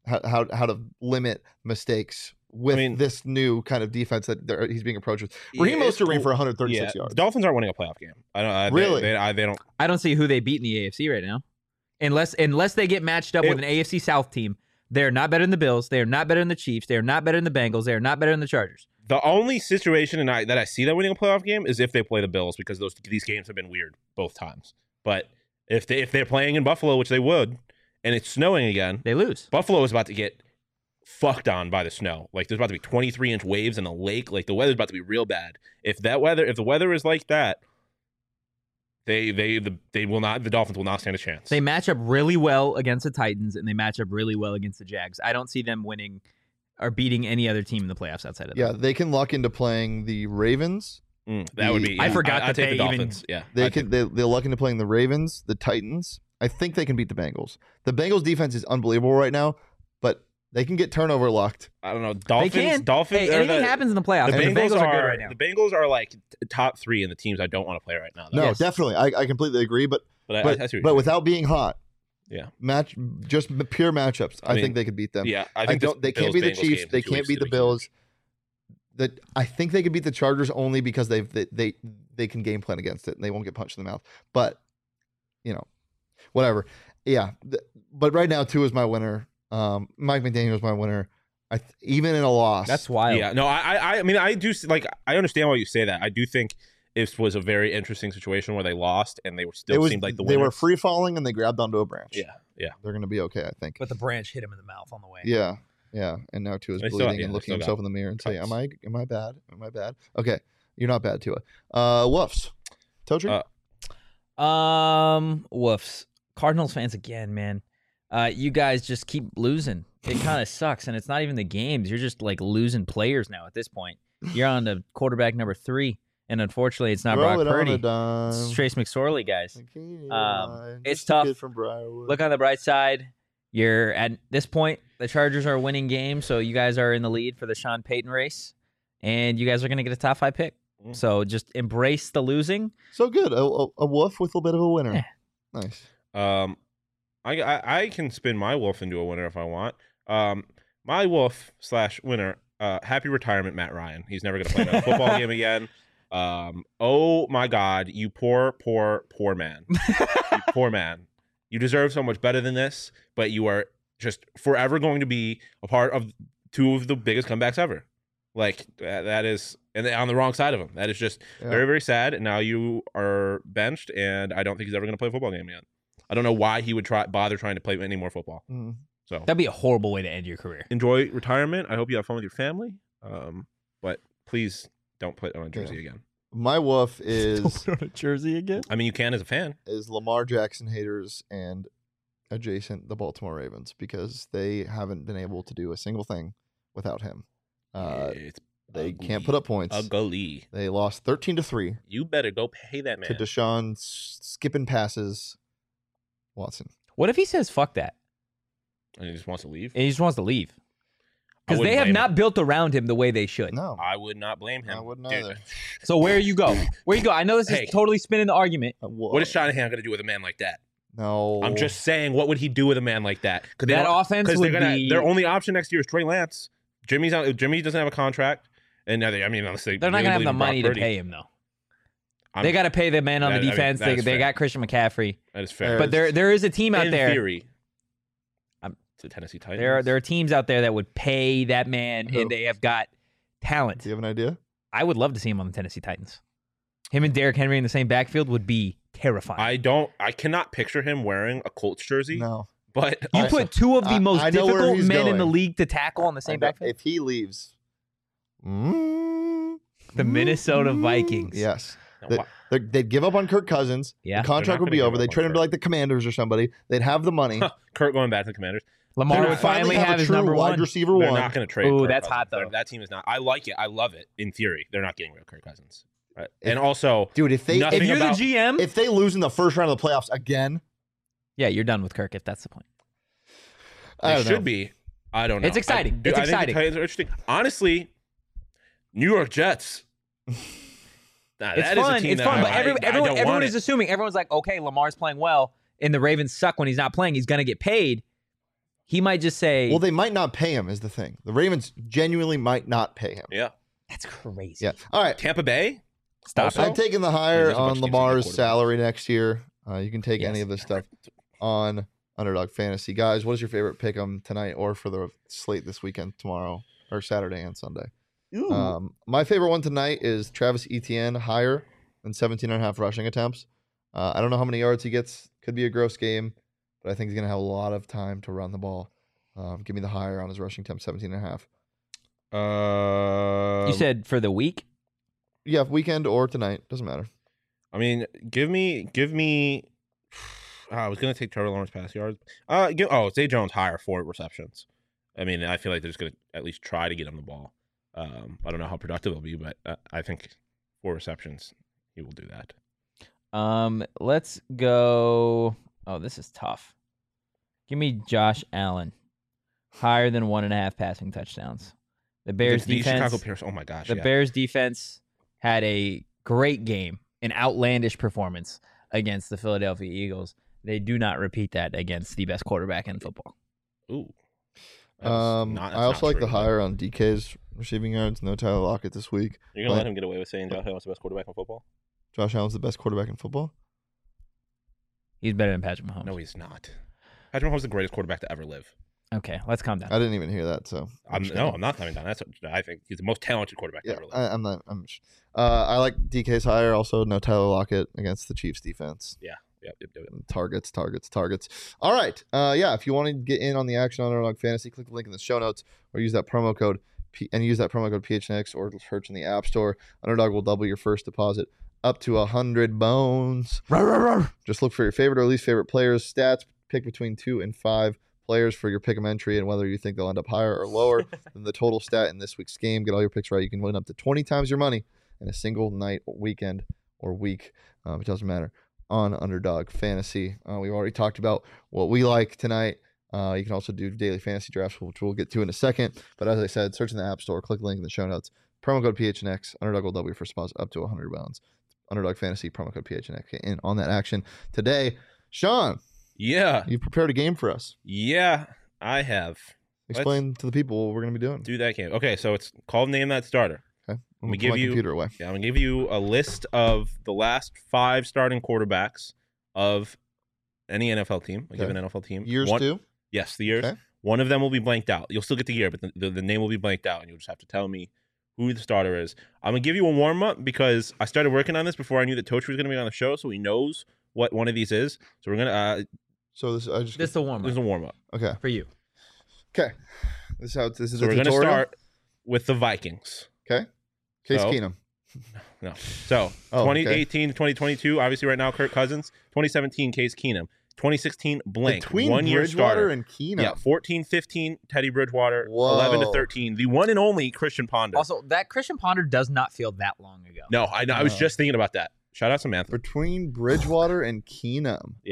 Speaker 2: limit mistakes with this new kind of defense that he's being approached with. Raheem Mostert ran for 136 yards.
Speaker 1: The Dolphins aren't winning a playoff game.
Speaker 2: Really?
Speaker 1: They don't.
Speaker 3: I don't see who they beat in the AFC right now, unless they get matched up with an AFC South team. They're not better than the Bills. They are not better than the Chiefs. They are not better than the Bengals. They are not better than the Chargers.
Speaker 1: The only situation that I see them winning a playoff game is if they play the Bills, because these games have been weird both times. But if they're playing in Buffalo, which they would, and it's snowing again,
Speaker 3: they lose.
Speaker 1: Buffalo is about to get fucked on by the snow. Like there's about to be 23-inch waves in a lake. Like the weather's about to be real bad. If the weather is like that, they will not. The Dolphins will not stand a chance.
Speaker 3: They match up really well against the Titans, and they match up really well against the Jags. I don't see them winning or beating any other team in the playoffs outside of them.
Speaker 2: Yeah, they can luck into playing the Ravens.
Speaker 1: That would be. Yeah.
Speaker 3: I forgot that
Speaker 1: take
Speaker 3: they
Speaker 1: the Dolphins.
Speaker 3: even.
Speaker 1: Yeah,
Speaker 2: They'll luck into playing the Ravens, the Titans. I think they can beat the Bengals. The Bengals defense is unbelievable right now, but they can get turnover lucked.
Speaker 1: I don't know.
Speaker 3: They can.
Speaker 1: Dolphins.
Speaker 3: Hey, anything happens in the playoffs.
Speaker 1: The
Speaker 3: Bengals are good right now.
Speaker 1: The Bengals are like top 3 in the teams I don't want to play right now.
Speaker 2: No,
Speaker 3: Yes.
Speaker 2: definitely. I completely agree. But
Speaker 1: I see what you're saying.
Speaker 2: without being hot,
Speaker 1: Yeah.
Speaker 2: just pure matchups. I
Speaker 1: mean,
Speaker 2: think they could beat them.
Speaker 1: Yeah,
Speaker 2: They can't beat the Chiefs. They can't beat the Bills. I think they could beat the Chargers only because they can game plan against it and they won't get punched in the mouth. But whatever. Yeah, but right now Tua is my winner. Mike McDaniel is my winner. Even in a loss,
Speaker 3: That's wild.
Speaker 1: Yeah, no, I mean, I do like. I understand why you say that. I do think it was a very interesting situation where they lost and they were still seemed like the winners.
Speaker 2: They were free falling and they grabbed onto a branch.
Speaker 1: Yeah.
Speaker 2: They're gonna be okay, I think.
Speaker 3: But the branch hit him in the mouth on the way.
Speaker 2: Yeah. And now Tua's
Speaker 1: They still-
Speaker 2: bleeding
Speaker 1: yeah,
Speaker 2: and
Speaker 1: they
Speaker 2: looking
Speaker 1: still
Speaker 2: himself
Speaker 1: got
Speaker 2: in the mirror and saying,
Speaker 1: cuts.
Speaker 2: "Am I bad? Am I bad?" Okay, you're not bad, Tua. Woofs, Totri.
Speaker 3: Woofs. Cardinals fans again, man. You guys just keep losing. It kind of sucks, and it's not even the games. You're just like losing players now at this point. You're on to quarterback number 3, and unfortunately, it's not
Speaker 2: Throw
Speaker 3: Brock
Speaker 2: it on
Speaker 3: Purdy.
Speaker 2: a dime.
Speaker 3: It's Trace McSorley, guys. It's
Speaker 2: Just a
Speaker 3: tough.
Speaker 2: kid from Briarwood.
Speaker 3: Look on the bright side. You're at this point, the Chargers are winning games, so you guys are in the lead for the Sean Payton race, and you guys are going to get a top 5 pick. So just embrace the losing.
Speaker 2: So good. A woof with a little bit of a winner.
Speaker 3: Yeah.
Speaker 2: Nice.
Speaker 1: I can spin my wolf into a winner if I want. My wolf / winner. Happy retirement, Matt Ryan. He's never going to play another football game again. Oh my God, you poor man. You poor man. You deserve so much better than this, but you are just forever going to be a part of 2 of the biggest comebacks ever. Like that is, and on the wrong side of him. That is just very, very sad. And now you are benched, and I don't think he's ever going to play a football game again. I don't know why he would bother trying to play any more football.
Speaker 2: Mm.
Speaker 1: So
Speaker 3: That'd be a horrible way to end your career.
Speaker 1: enjoy retirement. I hope you have fun with your family. But please don't put on a jersey again.
Speaker 2: My woof is
Speaker 3: Put on a jersey again?
Speaker 1: I mean, you can as a fan.
Speaker 2: Lamar Jackson haters and adjacent the Baltimore Ravens because they haven't been able to do a single thing without him.
Speaker 1: It's
Speaker 2: They
Speaker 1: ugly.
Speaker 2: can't put up points.
Speaker 1: Ugly.
Speaker 2: They lost 13-3
Speaker 1: You better go pay that man.
Speaker 2: to Deshaun skipping passes Watson.
Speaker 3: What if he says fuck that
Speaker 1: And he just wants to leave.
Speaker 3: and he just wants to leave? Because
Speaker 1: wouldn't
Speaker 3: they have
Speaker 1: blame
Speaker 3: not built around him the way they should.
Speaker 2: No.
Speaker 1: I would not blame him.
Speaker 2: I wouldn't
Speaker 1: Dude,
Speaker 2: either.
Speaker 3: So where you go? Where you go? I know this
Speaker 1: Hey.
Speaker 3: is totally spinning the argument.
Speaker 1: What is Shanahan going to do with a man like that?
Speaker 2: No.
Speaker 1: I'm just saying, what would he do with a man like that?
Speaker 3: That offense would be.
Speaker 1: Their only option next year is Trey Lance. Jimmy's out. Jimmy doesn't have a contract, and now honestly,
Speaker 3: They're not
Speaker 1: really
Speaker 3: gonna have
Speaker 1: believe
Speaker 3: the
Speaker 1: in Brock
Speaker 3: money to
Speaker 1: Purdy.
Speaker 3: pay him though.
Speaker 1: I'm-
Speaker 3: They got to pay the man on the
Speaker 1: That- I mean,
Speaker 3: defense.
Speaker 1: that is
Speaker 3: They
Speaker 1: fair.
Speaker 3: got Christian McCaffrey,
Speaker 1: That is fair.
Speaker 3: but there is a team out
Speaker 1: in
Speaker 3: there.
Speaker 1: theory,
Speaker 3: I'm-
Speaker 1: the Tennessee Titans.
Speaker 3: There are teams out there that would pay that man,
Speaker 2: Who?
Speaker 3: and they have got talent.
Speaker 2: Do you have an idea?
Speaker 3: I would love to see him on the Tennessee Titans. Him and Derrick Henry in the same backfield would be terrifying.
Speaker 1: I cannot picture him wearing a Colts jersey.
Speaker 2: No.
Speaker 1: But
Speaker 3: you
Speaker 2: Also,
Speaker 3: put two of the most
Speaker 2: I know where
Speaker 3: difficult
Speaker 2: he's
Speaker 3: men in the
Speaker 2: going.
Speaker 3: league to tackle on the same backfield.
Speaker 2: If he leaves,
Speaker 3: The Minnesota Vikings.
Speaker 2: Yes.
Speaker 1: No,
Speaker 2: They'd give up on Kirk Cousins.
Speaker 3: Yeah.
Speaker 2: The contract
Speaker 1: They're not
Speaker 2: would be
Speaker 1: gonna
Speaker 2: over.
Speaker 1: give
Speaker 2: They'd
Speaker 1: up
Speaker 2: trade
Speaker 1: on
Speaker 2: him to like the Commanders or somebody. They'd have the money.
Speaker 1: Kurt going back to the Commanders.
Speaker 3: Lamar
Speaker 1: They're
Speaker 3: would
Speaker 1: not-
Speaker 3: finally have
Speaker 2: a
Speaker 3: his
Speaker 2: true
Speaker 3: number
Speaker 2: wide
Speaker 3: one.
Speaker 2: receiver
Speaker 1: They're
Speaker 2: one.
Speaker 1: not going to trade.
Speaker 3: Ooh,
Speaker 1: Kirk
Speaker 3: that's
Speaker 1: Cousins.
Speaker 3: hot, though.
Speaker 1: That team is not. I like it. I love it. In theory, they're not getting rid of Kirk Cousins. Right? And also,
Speaker 2: Dude, if they
Speaker 1: Nothing
Speaker 3: If you're
Speaker 1: about-
Speaker 3: the GM,
Speaker 2: if they lose in the first round of the playoffs again,
Speaker 3: yeah, you're done with Kirk if that's the point.
Speaker 2: I
Speaker 1: they
Speaker 2: don't
Speaker 1: should
Speaker 2: know.
Speaker 1: be. I don't know.
Speaker 3: It's exciting.
Speaker 1: I
Speaker 3: It's
Speaker 1: think
Speaker 3: exciting.
Speaker 1: the Titans are interesting. Honestly, New York Jets. Nah,
Speaker 3: It's
Speaker 1: that is a
Speaker 3: fun.
Speaker 1: team
Speaker 3: It's
Speaker 1: that
Speaker 3: fun. But
Speaker 1: I
Speaker 3: everyone
Speaker 1: don't want
Speaker 3: is
Speaker 1: it.
Speaker 3: assuming. Everyone's like, okay, Lamar's playing well, and the Ravens suck when he's not playing. He's going to get paid. He might just say,
Speaker 2: Well, they might not pay him. Is the thing. The Ravens genuinely might not pay him.
Speaker 1: Yeah.
Speaker 3: that's crazy.
Speaker 2: Yeah. All right.
Speaker 1: Tampa Bay.
Speaker 3: Stop
Speaker 1: Also-
Speaker 3: it.
Speaker 2: I'm taking the
Speaker 1: Yeah,
Speaker 2: higher
Speaker 1: there's a bunch
Speaker 2: on
Speaker 1: of teams that get
Speaker 2: Lamar's
Speaker 1: quarterbacks.
Speaker 2: salary next year. You can take any
Speaker 3: Yes.
Speaker 2: of this stuff on Underdog Fantasy. Guys, what is your favorite pick 'em tonight or for the slate this weekend, tomorrow, or Saturday and Sunday? My favorite one tonight is Travis Etienne higher than 17.5 rushing attempts. I don't know how many yards he gets. Could be a gross game, but I think he's going to have a lot of time to run the ball. Give me the higher on his rushing attempt, 17.5.
Speaker 3: You said for the week?
Speaker 2: Yeah, weekend or tonight. Doesn't matter.
Speaker 1: I mean, give me. I was gonna take Trevor Lawrence pass yards. Zay Jones higher 4 receptions. I mean, I feel like they're just gonna at least try to get him the ball. I don't know how productive it'll be, but I think 4 receptions, he will do that.
Speaker 3: Let's go. Oh, this is tough. Give me Josh Allen higher than 1.5 passing touchdowns. The Bears
Speaker 1: the
Speaker 3: defense.
Speaker 1: Chicago Bears. Oh my gosh,
Speaker 3: The
Speaker 1: yeah.
Speaker 3: Bears defense had a great game, an outlandish performance against the Philadelphia Eagles. They do not repeat that against the best quarterback in football.
Speaker 1: Ooh. That's not
Speaker 2: I also like
Speaker 1: true.
Speaker 2: the higher on DK's receiving yards. No Tyler Lockett this week.
Speaker 1: You're gonna
Speaker 2: but
Speaker 1: let him get away with saying Josh Allen's the best quarterback in football?
Speaker 2: Josh Allen's the best quarterback in football.
Speaker 3: He's better than Patrick Mahomes.
Speaker 1: No, he's not. Patrick Mahomes is the greatest quarterback to ever live.
Speaker 3: Okay, let's calm down.
Speaker 2: I didn't even hear that. So
Speaker 1: I'm
Speaker 2: just gonna-
Speaker 1: not coming down. I think he's the most talented quarterback to
Speaker 2: Yeah,
Speaker 1: ever live.
Speaker 2: I'm not. I like DK's higher. Also, no Tyler Lockett against the Chiefs defense.
Speaker 1: Yep.
Speaker 2: Targets. All right. If you want to get in on the action on Underdog Fantasy, click the link in the show notes or use that promo code PHNX or search in the App Store. Underdog will double your first deposit up to 100 bones. Just look for your favorite or least favorite players' stats. Pick between 2 and 5 players for your pick'em entry and whether you think they'll end up higher or lower than the total stat in this week's game. Get all your picks right. You can win up to 20 times your money in a single night, weekend, or week. It doesn't matter. On Underdog Fantasy. We've already talked about what we like tonight. You can also do daily fantasy drafts, which we'll get to in a second. But as I said, search in the App Store, click the link in the show notes. Promo code PHNX. Underdog will double your first deposit up to 100 bones. Underdog Fantasy, promo code PHNX. Get in on that action today. Sean,
Speaker 1: Yeah.
Speaker 2: you've prepared a game for us.
Speaker 1: Yeah, I have.
Speaker 2: Explain to the people what we're going to be doing.
Speaker 1: Do that game. Okay, so it's called Name That Starter.
Speaker 2: Okay. I'm
Speaker 1: me
Speaker 2: going to
Speaker 1: give
Speaker 2: put my
Speaker 1: you-
Speaker 2: computer away.
Speaker 1: Yeah, I'm going to give you a list of the last 5 starting quarterbacks of any NFL team. I'll give
Speaker 2: Okay.
Speaker 1: an NFL team.
Speaker 2: Years
Speaker 1: One-
Speaker 2: too?
Speaker 1: Yes, the years.
Speaker 2: Okay.
Speaker 1: One of them will be blanked out. You'll still get the year, but the name will be blanked out, and you'll just have to tell me who the starter is. I'm going to give you a warm-up because I started working on this before I knew that Tochi was going to be on the show, so he knows what one of these is. So we're going to
Speaker 2: So this, I just.
Speaker 3: This is the warm
Speaker 1: this is a warm-up.
Speaker 2: Okay.
Speaker 3: for you.
Speaker 2: Okay. This is how this is
Speaker 1: So
Speaker 2: a
Speaker 1: we're going to
Speaker 2: tutorial.
Speaker 1: start with the Vikings.
Speaker 2: Okay. Case
Speaker 1: So-
Speaker 2: Keenum.
Speaker 1: No. So,
Speaker 2: Oh, okay.
Speaker 1: 2018 to 2022, obviously right now, Kirk Cousins. 2017, Case Keenum. 2016, blank.
Speaker 2: Between
Speaker 1: 1 year
Speaker 2: Bridgewater
Speaker 1: starter.
Speaker 2: and Keenum.
Speaker 1: Yeah, 14-15, Teddy Bridgewater.
Speaker 2: Whoa.
Speaker 1: 11 to 13, the one and only Christian Ponder.
Speaker 3: Also, that Christian Ponder does not feel that long ago.
Speaker 1: No, I know. I was
Speaker 2: No.
Speaker 1: just thinking about that. Shout out Samantha.
Speaker 2: Between Bridgewater and Keenum.
Speaker 1: Yeah.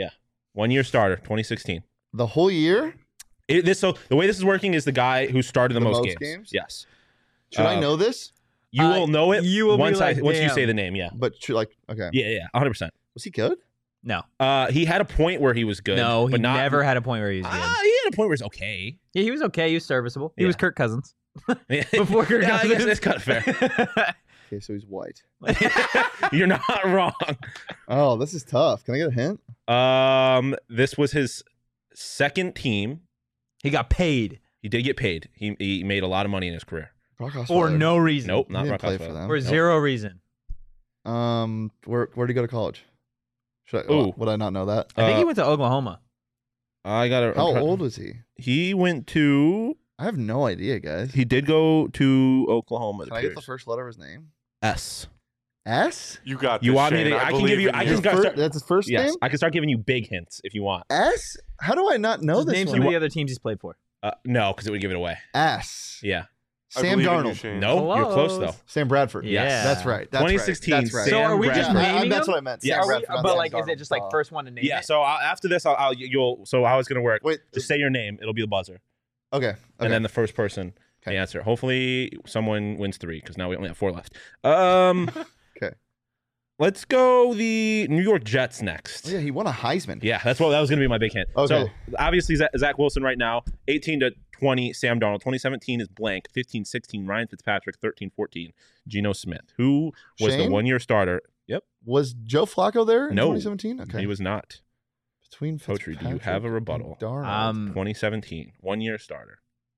Speaker 1: 1-year starter, 2016.
Speaker 2: The whole year?
Speaker 1: So the way this is working is the guy who started the most games. Yes.
Speaker 2: Should I know this?
Speaker 1: You will know it
Speaker 3: you will be
Speaker 1: once
Speaker 3: like,
Speaker 1: once you
Speaker 3: "Damn."
Speaker 1: say the name. Yeah.
Speaker 2: But okay.
Speaker 1: Yeah. 100%.
Speaker 2: Was he good?
Speaker 3: No.
Speaker 1: He had a point where he was good.
Speaker 3: No, he
Speaker 1: but not,
Speaker 3: never had a point where he was good.
Speaker 1: He had a point where he's okay.
Speaker 3: Yeah, he was okay. He was serviceable. He
Speaker 1: Yeah.
Speaker 3: was Kirk Cousins.
Speaker 1: Before
Speaker 3: Kirk
Speaker 1: I guess
Speaker 3: Cousins.
Speaker 1: that's kind of fair.
Speaker 2: Okay, so he's white.
Speaker 1: You're not wrong.
Speaker 2: Oh, this is tough. Can I get a hint?
Speaker 1: This was his second team.
Speaker 3: He got paid
Speaker 1: He did get paid. He made a lot of money in his career.
Speaker 2: Brock Osweiler.
Speaker 3: for no reason.
Speaker 1: Nope,
Speaker 2: He
Speaker 1: not
Speaker 2: didn't
Speaker 1: Brock
Speaker 2: play
Speaker 1: Osweiler.
Speaker 2: for them.
Speaker 3: For zero reason.
Speaker 2: Where did he go to college?
Speaker 1: Ooh.
Speaker 2: Would I not know that?
Speaker 3: I think he went to Oklahoma.
Speaker 1: I got
Speaker 2: How old was he?
Speaker 1: He went to.
Speaker 2: I have no idea, guys.
Speaker 1: He did go to Oklahoma.
Speaker 2: Can I get the first letter of his name?
Speaker 1: S.
Speaker 2: S?
Speaker 4: You got.
Speaker 1: You
Speaker 4: this,
Speaker 1: want me
Speaker 4: Shane.
Speaker 1: to? I can
Speaker 4: believe
Speaker 1: give you.
Speaker 4: in
Speaker 1: I
Speaker 4: you.
Speaker 1: can start.
Speaker 2: That's his first
Speaker 1: Yes,
Speaker 2: name?
Speaker 1: I can start giving you big hints if you want.
Speaker 2: S? How do I not know
Speaker 3: Just
Speaker 2: this
Speaker 3: name
Speaker 2: one?
Speaker 3: some of the other teams he's played for.
Speaker 1: No, because it would give it away.
Speaker 2: S.
Speaker 1: Yeah.
Speaker 4: I
Speaker 2: Sam
Speaker 4: believe in you,
Speaker 2: Darnold.
Speaker 4: Shane.
Speaker 1: No, you're close
Speaker 3: Close.
Speaker 1: though.
Speaker 2: Sam Bradford.
Speaker 3: Yeah.
Speaker 2: That's right. That's
Speaker 1: 2016
Speaker 2: Right. That's right.
Speaker 3: So are we just
Speaker 1: Sam Bradford.
Speaker 3: naming
Speaker 2: That's
Speaker 3: them?
Speaker 2: what I meant.
Speaker 1: Yes.
Speaker 2: Sam
Speaker 3: Are we,
Speaker 2: Bradford, not
Speaker 3: but
Speaker 2: Sam
Speaker 3: like, is it
Speaker 2: Darnold.
Speaker 3: just like first one to name?
Speaker 1: Yeah.
Speaker 3: it?
Speaker 1: So after this, you'll. So how it's gonna work?
Speaker 2: Wait.
Speaker 1: Just say your name. It'll be the buzzer,
Speaker 2: Okay.
Speaker 1: and then the first person to
Speaker 2: Okay.
Speaker 1: answer. Hopefully, someone wins 3 because now we only have 4 left.
Speaker 2: Okay.
Speaker 1: Let's go the New York Jets next.
Speaker 2: Oh, yeah, he won a Heisman.
Speaker 1: Yeah, that was going to be my big hint.
Speaker 2: Okay.
Speaker 1: So obviously Zach Wilson right now, 18 to 20, Sam Darnold. 2017 is blank. 15-16, Ryan Fitzpatrick. 13-14, Geno Smith. Who was the
Speaker 2: Shane?
Speaker 1: 1-year starter? Yep,
Speaker 2: Was Joe Flacco there in
Speaker 1: No.
Speaker 2: 2017? Okay.
Speaker 1: he was not.
Speaker 2: Between
Speaker 1: Poetry, do you
Speaker 2: Fitzpatrick
Speaker 1: have a
Speaker 2: and
Speaker 1: rebuttal?
Speaker 2: Darnold.
Speaker 1: 2017, 1-year starter.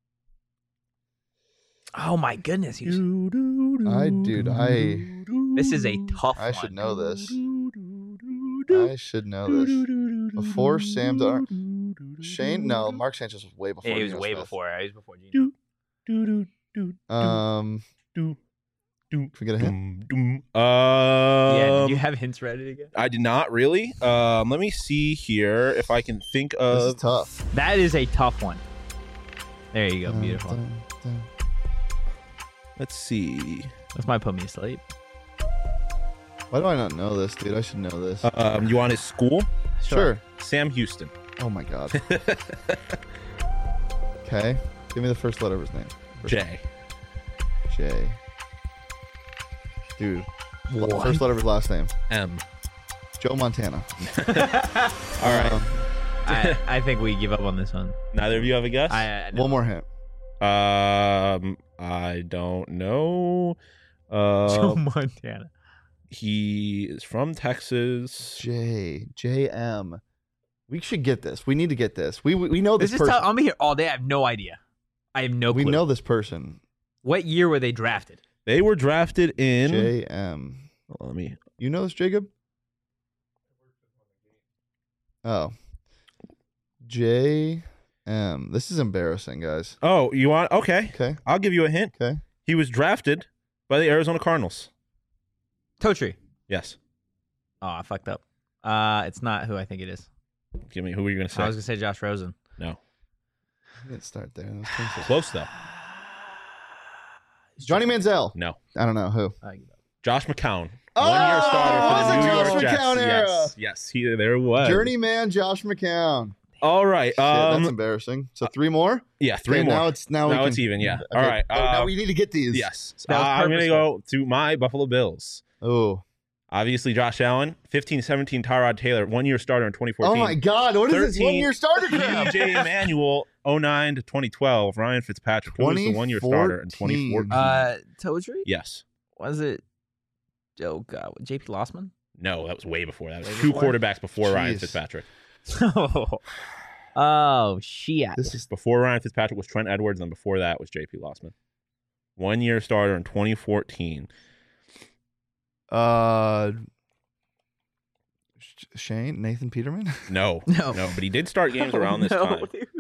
Speaker 3: Oh my goodness.
Speaker 2: This is
Speaker 3: a tough
Speaker 2: I
Speaker 3: one.
Speaker 2: should know this. I should know this. Before Sam Darnold. Shane? No, Mark Sanchez was way before.
Speaker 3: Yeah, he was
Speaker 2: Geno
Speaker 3: way
Speaker 2: Smith.
Speaker 3: before. He was before Geno.
Speaker 2: Can we get a hint?
Speaker 3: Yeah, did you have hints ready to go?
Speaker 1: I did not really. Let me see here if I can think
Speaker 2: This is
Speaker 1: of.
Speaker 2: tough.
Speaker 3: That is a tough one. There you go. Beautiful.
Speaker 1: Let's see.
Speaker 3: This might put me asleep.
Speaker 2: Why do I not know this, dude? I should know this.
Speaker 1: You want his school?
Speaker 2: Sure.
Speaker 1: Sam Houston.
Speaker 2: Oh my god. Okay. Give me the first letter of his name.
Speaker 1: J.
Speaker 2: J. Dude. First letter of his last name.
Speaker 1: M.
Speaker 2: Joe Montana.
Speaker 1: All right.
Speaker 3: I think we give up on this one.
Speaker 1: Neither of you have a guess?
Speaker 3: No.
Speaker 2: One more hint.
Speaker 1: I don't know.
Speaker 3: Joe Montana.
Speaker 1: He is from Texas.
Speaker 2: JM. We should get this. We need to get this. We know this
Speaker 3: This is
Speaker 2: person.
Speaker 3: tough. I'm here all day. I have no idea. I have no clue.
Speaker 2: We know this person.
Speaker 3: What year were they drafted?
Speaker 1: They were drafted in.
Speaker 2: JM.
Speaker 1: Let me.
Speaker 2: You know this, Jacob? Oh. JM. This is embarrassing, guys.
Speaker 1: Oh, you want? Okay.
Speaker 2: Okay.
Speaker 1: I'll give you a hint.
Speaker 2: Okay.
Speaker 1: He was drafted by the Arizona Cardinals.
Speaker 3: Totri.
Speaker 1: Yes.
Speaker 3: Oh, I fucked up. It's not who I think it is.
Speaker 1: Give me. Who are you going to say?
Speaker 3: I was gonna say Josh Rosen.
Speaker 1: No.
Speaker 2: I didn't start there. That was painful.
Speaker 1: Close though.
Speaker 2: Johnny Manziel.
Speaker 1: No.
Speaker 2: I don't know who.
Speaker 1: Josh McCown.
Speaker 2: Oh,
Speaker 1: 1-year starter for
Speaker 2: was
Speaker 1: the
Speaker 2: it
Speaker 1: New
Speaker 2: Josh
Speaker 1: York Jets.
Speaker 2: McCown era?
Speaker 1: Yes. Yes. There was.
Speaker 2: Journeyman Josh McCown.
Speaker 1: All right.
Speaker 2: Shit, that's embarrassing. So 3 more?
Speaker 1: Yeah. 3
Speaker 2: Okay,
Speaker 1: more.
Speaker 2: Now it's
Speaker 1: even. Yeah.
Speaker 2: Okay.
Speaker 1: All right.
Speaker 2: Now we need to get these.
Speaker 1: Yes.
Speaker 3: That was
Speaker 1: I'm going to
Speaker 3: purposeful.
Speaker 1: go to my Buffalo Bills.
Speaker 2: Oh.
Speaker 1: Obviously, Josh Allen, 15-17, Tyrod Taylor, 1-year starter in 2014.
Speaker 2: Oh my God. What is this
Speaker 1: 13,
Speaker 2: 1-year starter crap?
Speaker 1: DJ Emmanuel, 09 to 2012. Ryan Fitzpatrick, who was the 1-year starter in 2014.
Speaker 3: Totri?
Speaker 1: Yes.
Speaker 3: Was it? Oh God, JP Lossman?
Speaker 1: No, that was way before. That was
Speaker 3: Way
Speaker 1: 2
Speaker 3: before?
Speaker 1: quarterbacks before Ryan
Speaker 2: Jeez.
Speaker 1: Fitzpatrick.
Speaker 3: Oh shit!
Speaker 2: This is
Speaker 1: Before Ryan Fitzpatrick was Trent Edwards, and before that was JP Lossman. 1-year starter in 2014.
Speaker 2: Shane Nathan Peterman.
Speaker 1: No.
Speaker 3: No.
Speaker 1: No, but he did start games around this
Speaker 3: No,
Speaker 1: time.
Speaker 3: dude.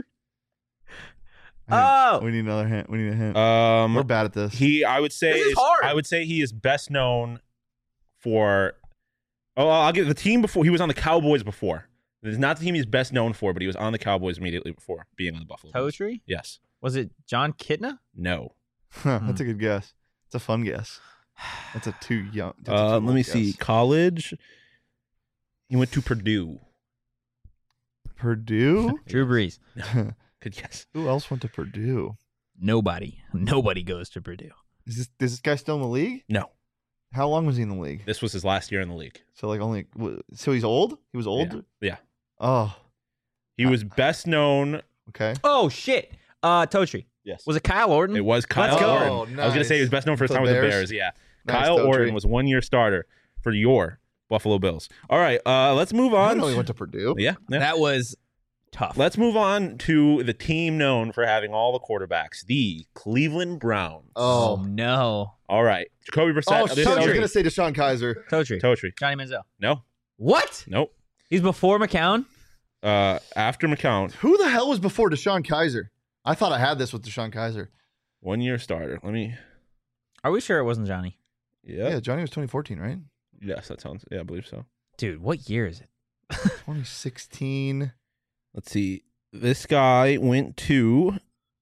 Speaker 3: Oh!
Speaker 2: We need another hint. We need a hint.
Speaker 1: Um,
Speaker 2: We're bad at this.
Speaker 1: I would say
Speaker 3: This is hard.
Speaker 1: I would say he is best known for. Oh, I'll give the team before. He was on the Cowboys before. It's not the team he's best known for, but he was on the Cowboys immediately before being on the Buffalo Bills.
Speaker 3: Totri?
Speaker 1: Yes.
Speaker 3: Was it John Kitna?
Speaker 1: No.
Speaker 2: That's a good guess. It's a fun guess. That's a too young. that's a too
Speaker 1: Let me
Speaker 2: old
Speaker 1: see.
Speaker 2: guess.
Speaker 1: College. He went to Purdue.
Speaker 2: Purdue?
Speaker 3: Drew Brees.
Speaker 1: Good guess.
Speaker 2: Who else went to Purdue?
Speaker 3: Nobody goes to Purdue.
Speaker 2: Is this guy still in the league?
Speaker 1: No,
Speaker 2: How long was he in the league?
Speaker 1: this was his last year in the league.
Speaker 2: So so he's old? He was old?
Speaker 1: Yeah.
Speaker 2: Oh,
Speaker 1: He was best known.
Speaker 2: okay.
Speaker 3: Oh shit. Totri.
Speaker 1: Yes.
Speaker 3: Was it Kyle Orton?
Speaker 1: It was Kyle
Speaker 3: Let's go.
Speaker 1: Orton.
Speaker 2: Oh,
Speaker 1: I was going to say he was best known for his
Speaker 2: For
Speaker 1: time
Speaker 2: the
Speaker 1: with the
Speaker 2: Bears?
Speaker 1: Bears. Yeah.
Speaker 2: Nice,
Speaker 1: Kyle
Speaker 2: Totri.
Speaker 1: Orton was 1 year starter for your Buffalo Bills. All right. Let's move
Speaker 2: I
Speaker 1: on.
Speaker 2: didn't know he went to Purdue.
Speaker 1: Yeah.
Speaker 3: That was tough.
Speaker 1: Let's move on to the team known for having all the quarterbacks, the Cleveland Browns.
Speaker 3: Oh
Speaker 2: Oh,
Speaker 3: no.
Speaker 1: All right. Jacoby Brissett.
Speaker 2: oh shit! I was
Speaker 3: Totri.
Speaker 2: gonna say Deshaun Kaiser.
Speaker 3: Totri.
Speaker 1: Totri.
Speaker 3: Johnny Manziel.
Speaker 1: No.
Speaker 3: What?
Speaker 1: Nope.
Speaker 3: He's before McCown?
Speaker 1: After McCown,
Speaker 2: Who the hell was before Deshaun Kaiser? I thought I had this with Deshaun Kaiser.
Speaker 1: 1 year starter. Let me.
Speaker 3: Are we sure it wasn't Johnny?
Speaker 2: Yeah, Johnny was 2014, right?
Speaker 1: Yes, that sounds. Yeah, I believe so.
Speaker 3: Dude, what year is it?
Speaker 2: 2016.
Speaker 1: Let's see. This guy went to.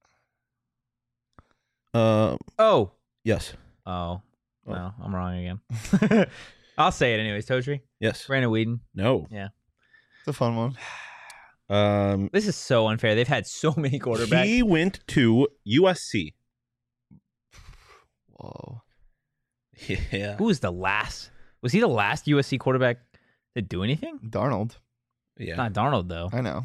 Speaker 3: Oh.
Speaker 1: Yes.
Speaker 3: Oh. No, I'm wrong again. I'll say it anyways. Totri.
Speaker 1: Yes.
Speaker 3: Brandon Whedon.
Speaker 1: No.
Speaker 2: It's a fun one.
Speaker 3: This is so unfair. They've had so many quarterbacks.
Speaker 1: He went to USC.
Speaker 2: Whoa.
Speaker 1: Yeah.
Speaker 3: Who was the last? Was he the last USC quarterback to do anything?
Speaker 2: Darnold.
Speaker 1: Yeah.
Speaker 3: Not Darnold, though.
Speaker 2: I know.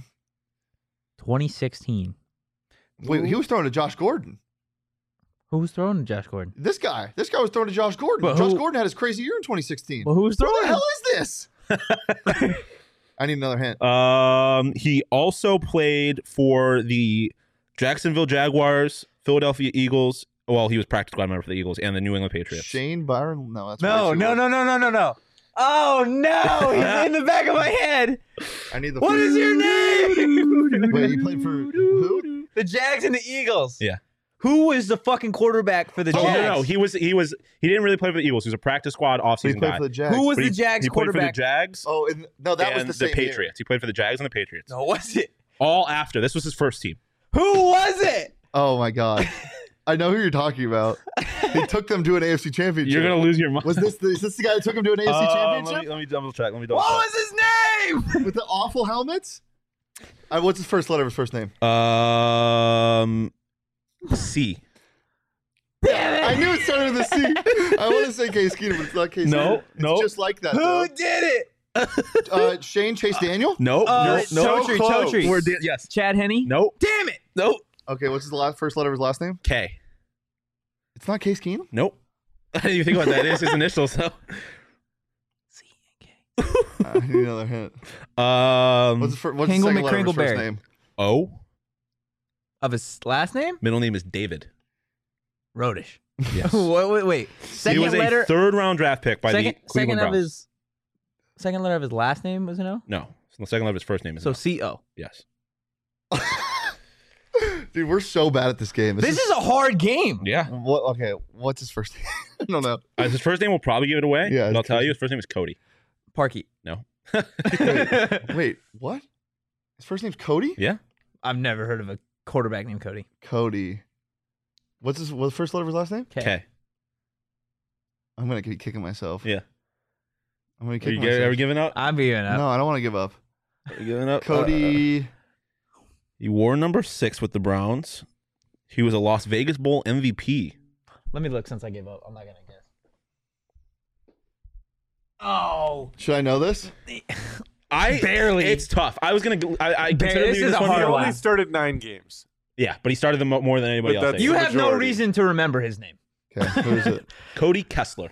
Speaker 3: 2016.
Speaker 2: Wait, he was throwing to Josh Gordon.
Speaker 3: Who was throwing to Josh Gordon?
Speaker 2: This guy was throwing to Josh Gordon.
Speaker 3: But
Speaker 2: Josh
Speaker 3: who-
Speaker 2: Gordon had his crazy year in 2016.
Speaker 3: Well, who was
Speaker 2: Who
Speaker 3: throwing?
Speaker 2: the hell is this? I need another hint.
Speaker 1: He also played for the Jacksonville Jaguars, Philadelphia Eagles. Well, he was practice squad member for the Eagles and the New England Patriots.
Speaker 2: Shane Byron? No, that's
Speaker 3: No.
Speaker 2: way too old.
Speaker 3: No. Oh, no. He's in the back of my head.
Speaker 2: I need the.
Speaker 3: What is your name?
Speaker 2: Wait, he played for who?
Speaker 3: The Jags and the Eagles.
Speaker 1: Yeah.
Speaker 3: Who was the fucking quarterback for the
Speaker 1: Oh,
Speaker 3: Jags?
Speaker 1: no. He didn't really play for the Eagles. He was a practice squad
Speaker 2: He
Speaker 1: offseason
Speaker 2: played
Speaker 1: guy.
Speaker 2: for the Jags.
Speaker 3: Who was
Speaker 1: But
Speaker 3: the Jags
Speaker 1: he played for the
Speaker 3: quarterback?
Speaker 1: Jags
Speaker 2: Oh, no, that was
Speaker 1: and
Speaker 2: the same year.
Speaker 1: Patriots. He played for the Jags and the Patriots.
Speaker 3: No, was it?
Speaker 1: All after. This was his first team.
Speaker 3: Who was it?
Speaker 2: Oh my god, I know who you're talking about. He took them to an AFC championship.
Speaker 1: You're going to lose your mind.
Speaker 2: Is this the guy that took him to an AFC championship
Speaker 1: Let me double check.
Speaker 3: What was his name?
Speaker 2: with the awful helmets? What's his first letter of his first name?
Speaker 1: C.
Speaker 3: Damn it.
Speaker 2: I knew it started with a C. I want to say Case Keenum, but it's not Case
Speaker 1: No,
Speaker 2: Keenum. It's
Speaker 1: no.
Speaker 2: just like that.
Speaker 3: Who did it?
Speaker 2: though. Shane Chase Daniel?
Speaker 1: No.
Speaker 3: Totri, Totri.
Speaker 1: We're yes.
Speaker 3: Chad Henne?
Speaker 1: Nope.
Speaker 3: Damn it.
Speaker 1: Nope.
Speaker 2: Okay, what's his first letter of his last name?
Speaker 1: K.
Speaker 2: It's not Case Keenum?
Speaker 1: Nope. I didn't even think about that. It is his initials. So.
Speaker 2: I need another hint. What's the
Speaker 3: Kringle
Speaker 2: second letter of his first
Speaker 3: McCringleberry.
Speaker 2: name?
Speaker 1: O.
Speaker 3: Of his last name?
Speaker 1: Middle name is David.
Speaker 3: Rodish.
Speaker 1: Yes.
Speaker 3: Wait.
Speaker 1: He
Speaker 3: Second
Speaker 1: was
Speaker 3: letter.
Speaker 1: a third round draft pick by
Speaker 3: second,
Speaker 1: the Cleveland
Speaker 3: second of
Speaker 1: Browns.
Speaker 3: his. Second letter of his last name was an O.
Speaker 1: No. So the second letter of his first name is
Speaker 3: So
Speaker 1: no.
Speaker 3: C-O.
Speaker 1: Yes.
Speaker 2: Dude, we're so bad at this game.
Speaker 3: This is a hard game.
Speaker 1: Yeah.
Speaker 2: Okay, what's his first name? I don't know.
Speaker 1: His first name will probably give it away.
Speaker 2: Yeah,
Speaker 1: But I'll
Speaker 2: his
Speaker 1: tell
Speaker 2: first-
Speaker 1: you, his first name is Cody.
Speaker 3: Parkey.
Speaker 1: No.
Speaker 2: Wait, what? His first name's Cody?
Speaker 1: Yeah.
Speaker 3: I've never heard of a quarterback named Cody.
Speaker 2: Cody. What's the first letter of his last name?
Speaker 1: K.
Speaker 2: I'm going to be kicking myself.
Speaker 1: Yeah.
Speaker 2: I'm going to
Speaker 1: Are
Speaker 2: kick
Speaker 1: you
Speaker 2: myself.
Speaker 1: ever giving up?
Speaker 3: I'm giving up.
Speaker 2: No, I don't want to give up.
Speaker 1: Are you giving up?
Speaker 2: Cody.
Speaker 1: He wore number 6 with the Browns. He was a Las Vegas Bowl MVP.
Speaker 3: Let me look since I gave up. I'm not gonna guess. Oh,
Speaker 2: Should I know this?
Speaker 1: I
Speaker 3: Barely.
Speaker 1: It's tough. I was gonna. I consider
Speaker 3: This
Speaker 1: leaving
Speaker 3: is
Speaker 1: this
Speaker 3: a
Speaker 1: one
Speaker 3: hard
Speaker 1: here.
Speaker 4: He
Speaker 3: one.
Speaker 4: only started 9 games.
Speaker 1: Yeah, but he started them more than anybody
Speaker 4: But
Speaker 1: else.
Speaker 4: that's-
Speaker 3: you
Speaker 1: did.
Speaker 3: have no
Speaker 4: majority.
Speaker 3: reason to remember his name.
Speaker 2: Okay, who is it?
Speaker 1: Cody Kessler.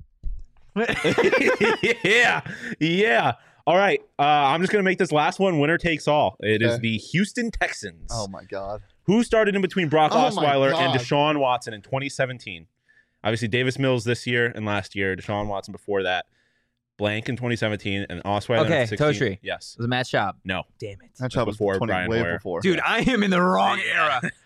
Speaker 1: yeah. All right. I'm just gonna make this last one winner takes all. It is
Speaker 2: Okay.
Speaker 1: the Houston Texans.
Speaker 2: Oh my god.
Speaker 1: Who started in between Brock
Speaker 2: Oh my
Speaker 1: Osweiler and
Speaker 2: God.
Speaker 1: Deshaun Watson in 2017? Obviously, Davis Mills this year and last year. Deshaun Watson before that. Blank in 2017 and Osweiler
Speaker 3: Okay,
Speaker 1: in 2016.
Speaker 3: Totri.
Speaker 1: Yes.
Speaker 3: Was it Matt Schaub?
Speaker 1: No.
Speaker 3: Damn it.
Speaker 2: That job was
Speaker 1: before
Speaker 2: 20,
Speaker 1: Brian
Speaker 2: way
Speaker 1: Hoyer.
Speaker 2: before.
Speaker 3: Dude, I am in the wrong
Speaker 1: Yeah.
Speaker 3: era.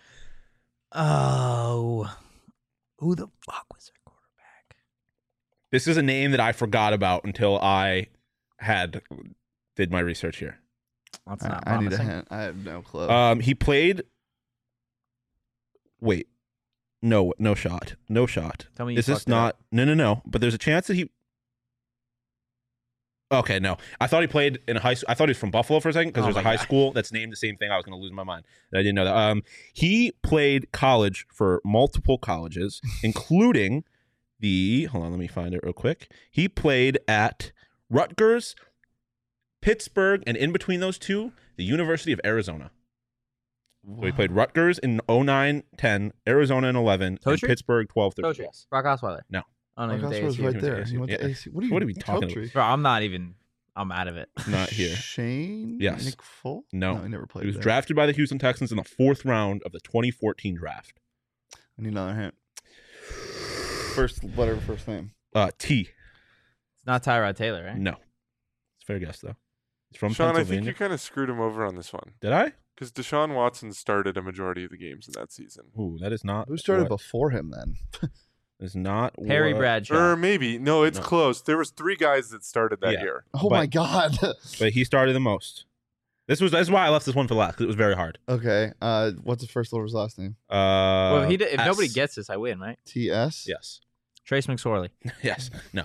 Speaker 3: Oh. Who the fuck was their quarterback?
Speaker 1: This is a name that I forgot about until I did my research here.
Speaker 3: That's not
Speaker 2: I need a
Speaker 3: promising.
Speaker 2: hint. I have no clue.
Speaker 1: He played. Wait, no shot.
Speaker 3: Tell me you
Speaker 1: Is this
Speaker 3: fucked it up.
Speaker 1: not? No. But there's a chance that he. Okay, no. I thought he played in high school. I thought he was from Buffalo for a second because
Speaker 3: Oh
Speaker 1: there's a
Speaker 3: my
Speaker 1: high
Speaker 3: God.
Speaker 1: school that's named the same thing. I was going to lose my mind. I didn't know that. He played college for multiple colleges, including hold on, let me find it real quick. He played at Rutgers, Pittsburgh, and in between those two, the University of Arizona. So he played Rutgers in 09-10, Arizona in 11, and
Speaker 3: Totri?
Speaker 1: Pittsburgh 12-13.
Speaker 3: Coach,
Speaker 1: Yes.
Speaker 3: Brock Osweiler.
Speaker 1: No.
Speaker 3: I don't
Speaker 2: Mark
Speaker 3: even
Speaker 2: Osweiler's
Speaker 3: think
Speaker 2: right
Speaker 1: He went to
Speaker 2: there.
Speaker 1: AC.
Speaker 2: He went to
Speaker 1: Yeah.
Speaker 2: AC.
Speaker 1: What are we talking about?
Speaker 3: Bro, I'm out of it.
Speaker 1: Not here.
Speaker 2: Shane?
Speaker 1: Yes.
Speaker 2: Nick Folk?
Speaker 1: No.
Speaker 2: he never played
Speaker 1: He was
Speaker 2: there.
Speaker 1: drafted by the Houston Texans in the 4th round of the 2014 draft.
Speaker 2: I need another hint. First, whatever first name.
Speaker 1: T.
Speaker 3: It's not Tyrod Taylor, right?
Speaker 1: No. It's a fair guess, though. He's from
Speaker 4: Sean, I think
Speaker 1: Pennsylvania.
Speaker 4: you kind of screwed him over on this one
Speaker 1: Did I?
Speaker 4: because Deshaun Watson started a majority of the games in that season.
Speaker 1: Ooh, that is not.
Speaker 2: Who started
Speaker 1: what-
Speaker 2: before him then?
Speaker 1: Is not
Speaker 3: Perry
Speaker 1: what-
Speaker 3: Bradshaw.
Speaker 4: Or maybe no, it's
Speaker 1: No.
Speaker 4: close. There was 3 guys that started that
Speaker 1: Yeah.
Speaker 4: year.
Speaker 2: Oh
Speaker 1: But-
Speaker 2: my God.
Speaker 1: But he started the most. That's why I left this one for last because it was very hard.
Speaker 2: Okay. What's the first letter of his last name?
Speaker 3: Well, if
Speaker 1: S.
Speaker 3: nobody gets this, I win, right?
Speaker 2: T.S.
Speaker 1: Yes.
Speaker 3: Trace McSorley.
Speaker 1: Yes. No.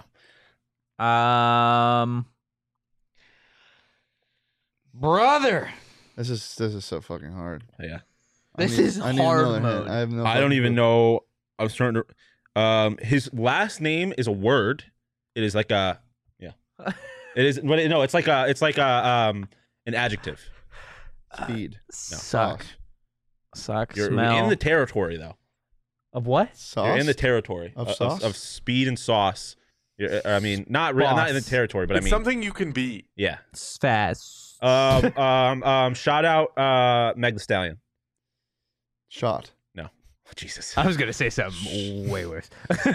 Speaker 3: Brother.
Speaker 2: This is so fucking hard.
Speaker 1: Yeah.
Speaker 3: This is
Speaker 2: I need
Speaker 3: hard
Speaker 2: another hint.
Speaker 3: mode.
Speaker 2: I have no.
Speaker 1: I don't
Speaker 2: fucking
Speaker 1: even
Speaker 2: clue.
Speaker 1: know. I was trying to. His last name is a word. It is like a. Yeah. It is. But no, it's like an adjective.
Speaker 2: Speed.
Speaker 3: Suck.
Speaker 2: Sauce.
Speaker 3: Suck.
Speaker 1: You're
Speaker 3: Smell.
Speaker 1: in the territory though.
Speaker 3: of what?
Speaker 2: Sauce.
Speaker 1: You're in the territory
Speaker 2: Of sauce?
Speaker 1: of speed and sauce. I mean, not I'm not in the
Speaker 3: Sauce.
Speaker 1: territory, but
Speaker 4: It's
Speaker 1: I mean,
Speaker 4: something you can be.
Speaker 1: yeah.
Speaker 3: Fast.
Speaker 1: Shout out Meg Thee Stallion.
Speaker 2: Shot.
Speaker 1: Jesus.
Speaker 3: I was gonna say something way worse.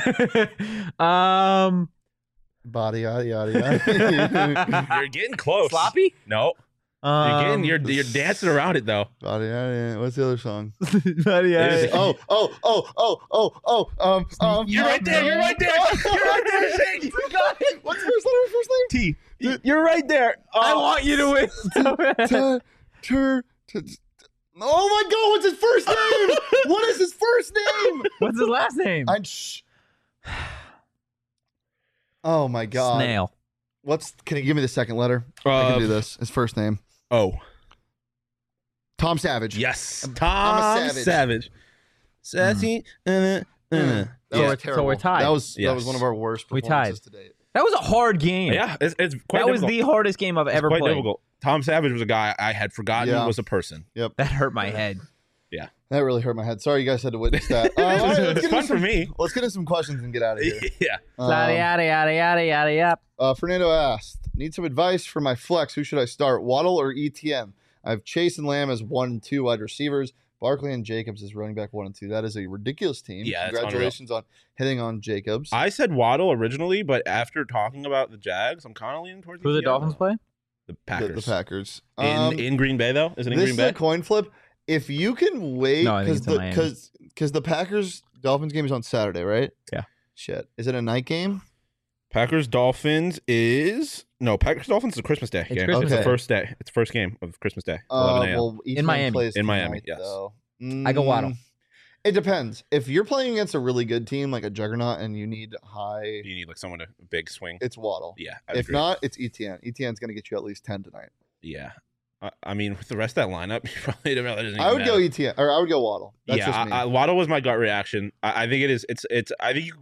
Speaker 2: Body yada yada yada.
Speaker 1: You're getting close.
Speaker 3: Sloppy.
Speaker 1: No. You're dancing around it though.
Speaker 2: Body yada yada. What's the other song?
Speaker 1: It is-
Speaker 2: You're
Speaker 1: right there, you're right there, you're right there, Shane.
Speaker 2: What's the first letter of his first name?
Speaker 1: T. You're right there.
Speaker 3: I want you to win. so bad.
Speaker 2: Oh my God! What's his first name? What is his first name?
Speaker 3: What's his last name?
Speaker 2: Oh my God!
Speaker 3: Snail.
Speaker 2: Can you give me the second letter? I can do this. His first name.
Speaker 1: Oh.
Speaker 2: Tom Savage.
Speaker 1: Yes.
Speaker 2: I'm a
Speaker 1: Tom
Speaker 2: savage.
Speaker 1: Savage. Sassy.
Speaker 2: That
Speaker 1: Yeah.
Speaker 2: was terrible.
Speaker 3: So we're tied.
Speaker 2: That was
Speaker 1: Yes.
Speaker 2: one of our worst
Speaker 3: We
Speaker 2: performances to date.
Speaker 3: That was a hard game.
Speaker 1: Yeah, it's quite
Speaker 3: That was
Speaker 1: difficult.
Speaker 3: the hardest game I've
Speaker 1: It's
Speaker 3: ever
Speaker 1: quite
Speaker 3: played.
Speaker 1: difficult. Tom Savage was a guy I had forgotten
Speaker 2: Yeah.
Speaker 1: was a person.
Speaker 3: That hurt my head.
Speaker 2: That really hurt my head. Sorry, you guys had to witness that. All right, let's
Speaker 1: It's
Speaker 2: get into
Speaker 1: fun for
Speaker 2: some-
Speaker 1: me.
Speaker 2: Let's get into some questions and get out of here.
Speaker 1: Yeah.
Speaker 3: Yada yada yada yada yada yada.
Speaker 2: Fernando asked, "Need some advice for my flex. Who should I start, Waddle or ETN? I have Chase and Lamb as 1 and 2 wide receivers. Barkley and Jacobs as running back 1 and 2. That is a ridiculous team.
Speaker 1: Yeah, that's
Speaker 2: Congratulations on hitting on Jacobs.
Speaker 1: I said Waddle originally, but after talking about the Jags, I'm kind of leaning towards
Speaker 3: Who the
Speaker 1: ETN.
Speaker 3: Dolphins play?
Speaker 1: The
Speaker 2: the
Speaker 1: Packers.
Speaker 2: Packers.
Speaker 1: In Green Bay though? Is it in
Speaker 2: This
Speaker 1: Green
Speaker 2: is
Speaker 1: Bay?
Speaker 2: a coin flip. If you can wait,
Speaker 3: No, I think it's in Miami.
Speaker 2: because the Packers Dolphins game is on Saturday, right?
Speaker 3: Yeah.
Speaker 2: Shit, is it a night game?
Speaker 1: Packers Dolphins is Packers Dolphins is a Christmas Day
Speaker 3: It's
Speaker 1: game.
Speaker 3: Christmas
Speaker 1: It's the
Speaker 2: Day.
Speaker 1: first day. It's the first game of Christmas Day. 11 a.m.
Speaker 2: Well, each
Speaker 3: In
Speaker 2: man
Speaker 3: Miami.
Speaker 2: plays
Speaker 1: In Miami,
Speaker 2: tonight,
Speaker 1: yes.
Speaker 2: though.
Speaker 3: I go Waddle.
Speaker 2: It depends. If you're playing against a really good team like a juggernaut and you need high,
Speaker 1: You need like someone to big swing.
Speaker 2: it's Waddle.
Speaker 1: Yeah. I'd
Speaker 2: If
Speaker 1: agree.
Speaker 2: not, it's ETN. ETN's going to get you at least 10 tonight.
Speaker 1: Yeah. I mean, with the rest of that lineup, you probably don't really doesn't
Speaker 2: I
Speaker 1: even
Speaker 2: would go
Speaker 1: matter.
Speaker 2: ETN, or I would go Waddle. That's just me.
Speaker 1: Waddle was my gut reaction. I think it is. It's. I think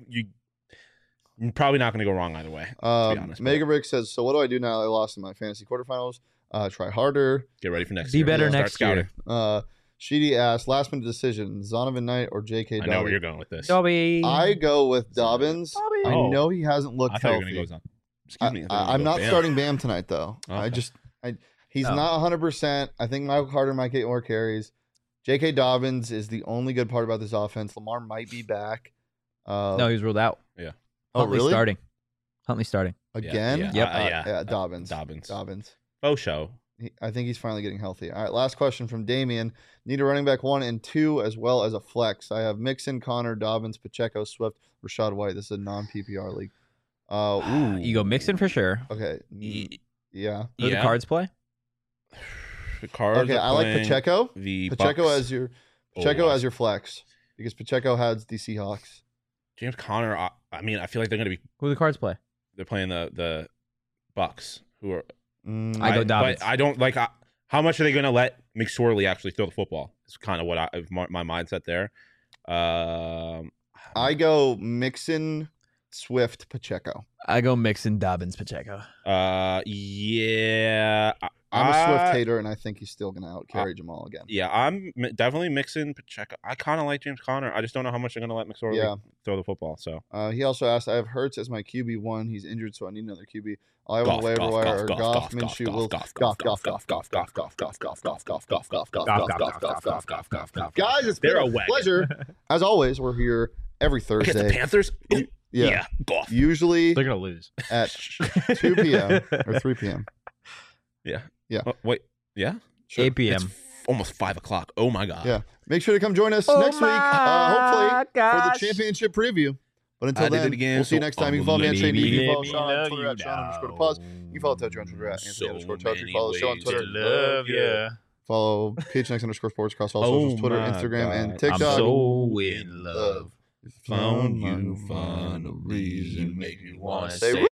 Speaker 1: you're probably not going to go wrong either way. To be honest,
Speaker 2: Mega Brick says, "So what do I do now that I lost in my fantasy quarterfinals? Try harder."
Speaker 1: Get ready for next
Speaker 3: Be
Speaker 1: year.
Speaker 3: better
Speaker 1: Start
Speaker 3: next
Speaker 1: scouting.
Speaker 3: year.
Speaker 2: Sheedy asked, last minute decision: Zonovan Knight or J.K.
Speaker 1: I know where
Speaker 2: Dobbins?
Speaker 1: you're going with this.
Speaker 3: Dobby.
Speaker 2: I go with Dobbins.
Speaker 3: Dobby.
Speaker 2: I
Speaker 1: Oh.
Speaker 2: know he hasn't looked
Speaker 1: I thought you were
Speaker 2: healthy.
Speaker 1: going to go. Excuse me. I thought you were
Speaker 2: I'm
Speaker 1: gonna go
Speaker 2: not
Speaker 1: Bam.
Speaker 2: starting Bam tonight though.
Speaker 1: Okay.
Speaker 2: He's
Speaker 3: Oh.
Speaker 2: not 100%. I think Michael Carter might get more carries. J.K. Dobbins is the only good part about this offense. Lamar might be back.
Speaker 3: No, he's ruled out.
Speaker 1: Yeah.
Speaker 2: Oh,
Speaker 3: Huntley
Speaker 2: really?
Speaker 3: starting. Huntley starting.
Speaker 2: Again?
Speaker 1: Yeah.
Speaker 3: Yep.
Speaker 2: Yeah, Dobbins.
Speaker 1: Dobbins. Oh, show.
Speaker 2: I think he's finally getting healthy. All right, last question from Damien. Need a running back 1 and 2 as well as a flex. I have Mixon, Connor, Dobbins, Pacheco, Swift, Rashad White. This is a non-PPR league.
Speaker 3: You go Mixon for sure.
Speaker 2: Okay. Yeah.
Speaker 3: Who the Cards play?
Speaker 1: The Cards.
Speaker 2: Okay,
Speaker 1: are
Speaker 2: I like
Speaker 1: playing
Speaker 2: Pacheco.
Speaker 1: The
Speaker 2: Pacheco
Speaker 1: Bucks.
Speaker 2: as your
Speaker 1: Oh,
Speaker 2: Pacheco
Speaker 1: lost.
Speaker 2: as your flex because Pacheco has the Seahawks.
Speaker 1: James Conner. I mean, I feel like they're going to be.
Speaker 3: Who the Cards play?
Speaker 1: They're playing the Bucks, who are
Speaker 3: I go Dobbins.
Speaker 1: But I don't like how much are they going to let McSorley actually throw the football? It's kind of what my mindset there.
Speaker 2: I go Mixon, Swift, Pacheco.
Speaker 3: I go Mixon, Dobbins, Pacheco.
Speaker 1: Yeah.
Speaker 2: I'm a Swift hater, and I think he's still going to outcarry Jamal again.
Speaker 1: Yeah, I'm definitely mixing Pacheco. I kind of like James Conner. I just don't know how much they're going to let McSorley throw the football. So
Speaker 2: he also asked, I have Hurts as my QB1. He's injured, so I need another QB. All I have on the waiver wire are Goff, Minshew, Goff. Guys, it's been a pleasure. As always, we're here every Thursday.
Speaker 1: the Panthers?
Speaker 2: Yeah.
Speaker 1: Goff.
Speaker 2: Usually
Speaker 3: They're gonna lose
Speaker 2: at 2 p.m. or 3 p.m.
Speaker 1: Yeah.
Speaker 2: Yeah.
Speaker 1: Wait. Yeah?
Speaker 2: Sure.
Speaker 3: 8 p.m.
Speaker 1: It's almost 5 o'clock. Oh, my God.
Speaker 2: Yeah. Make sure to come join us next week, hopefully, for the championship preview. But until then, we'll see you next time. You can follow me on Shane. You can follow Sean on Twitter at Sean_pause. You can follow Touchy on Twitter at Anthony_Touchy. Follow the show on Twitter.
Speaker 3: Love ya.
Speaker 2: Follow PHNX_sports across all socials, Twitter, Instagram, and TikTok.
Speaker 3: I'm so in love.
Speaker 2: Found you,
Speaker 3: find a reason, make you wanna
Speaker 2: say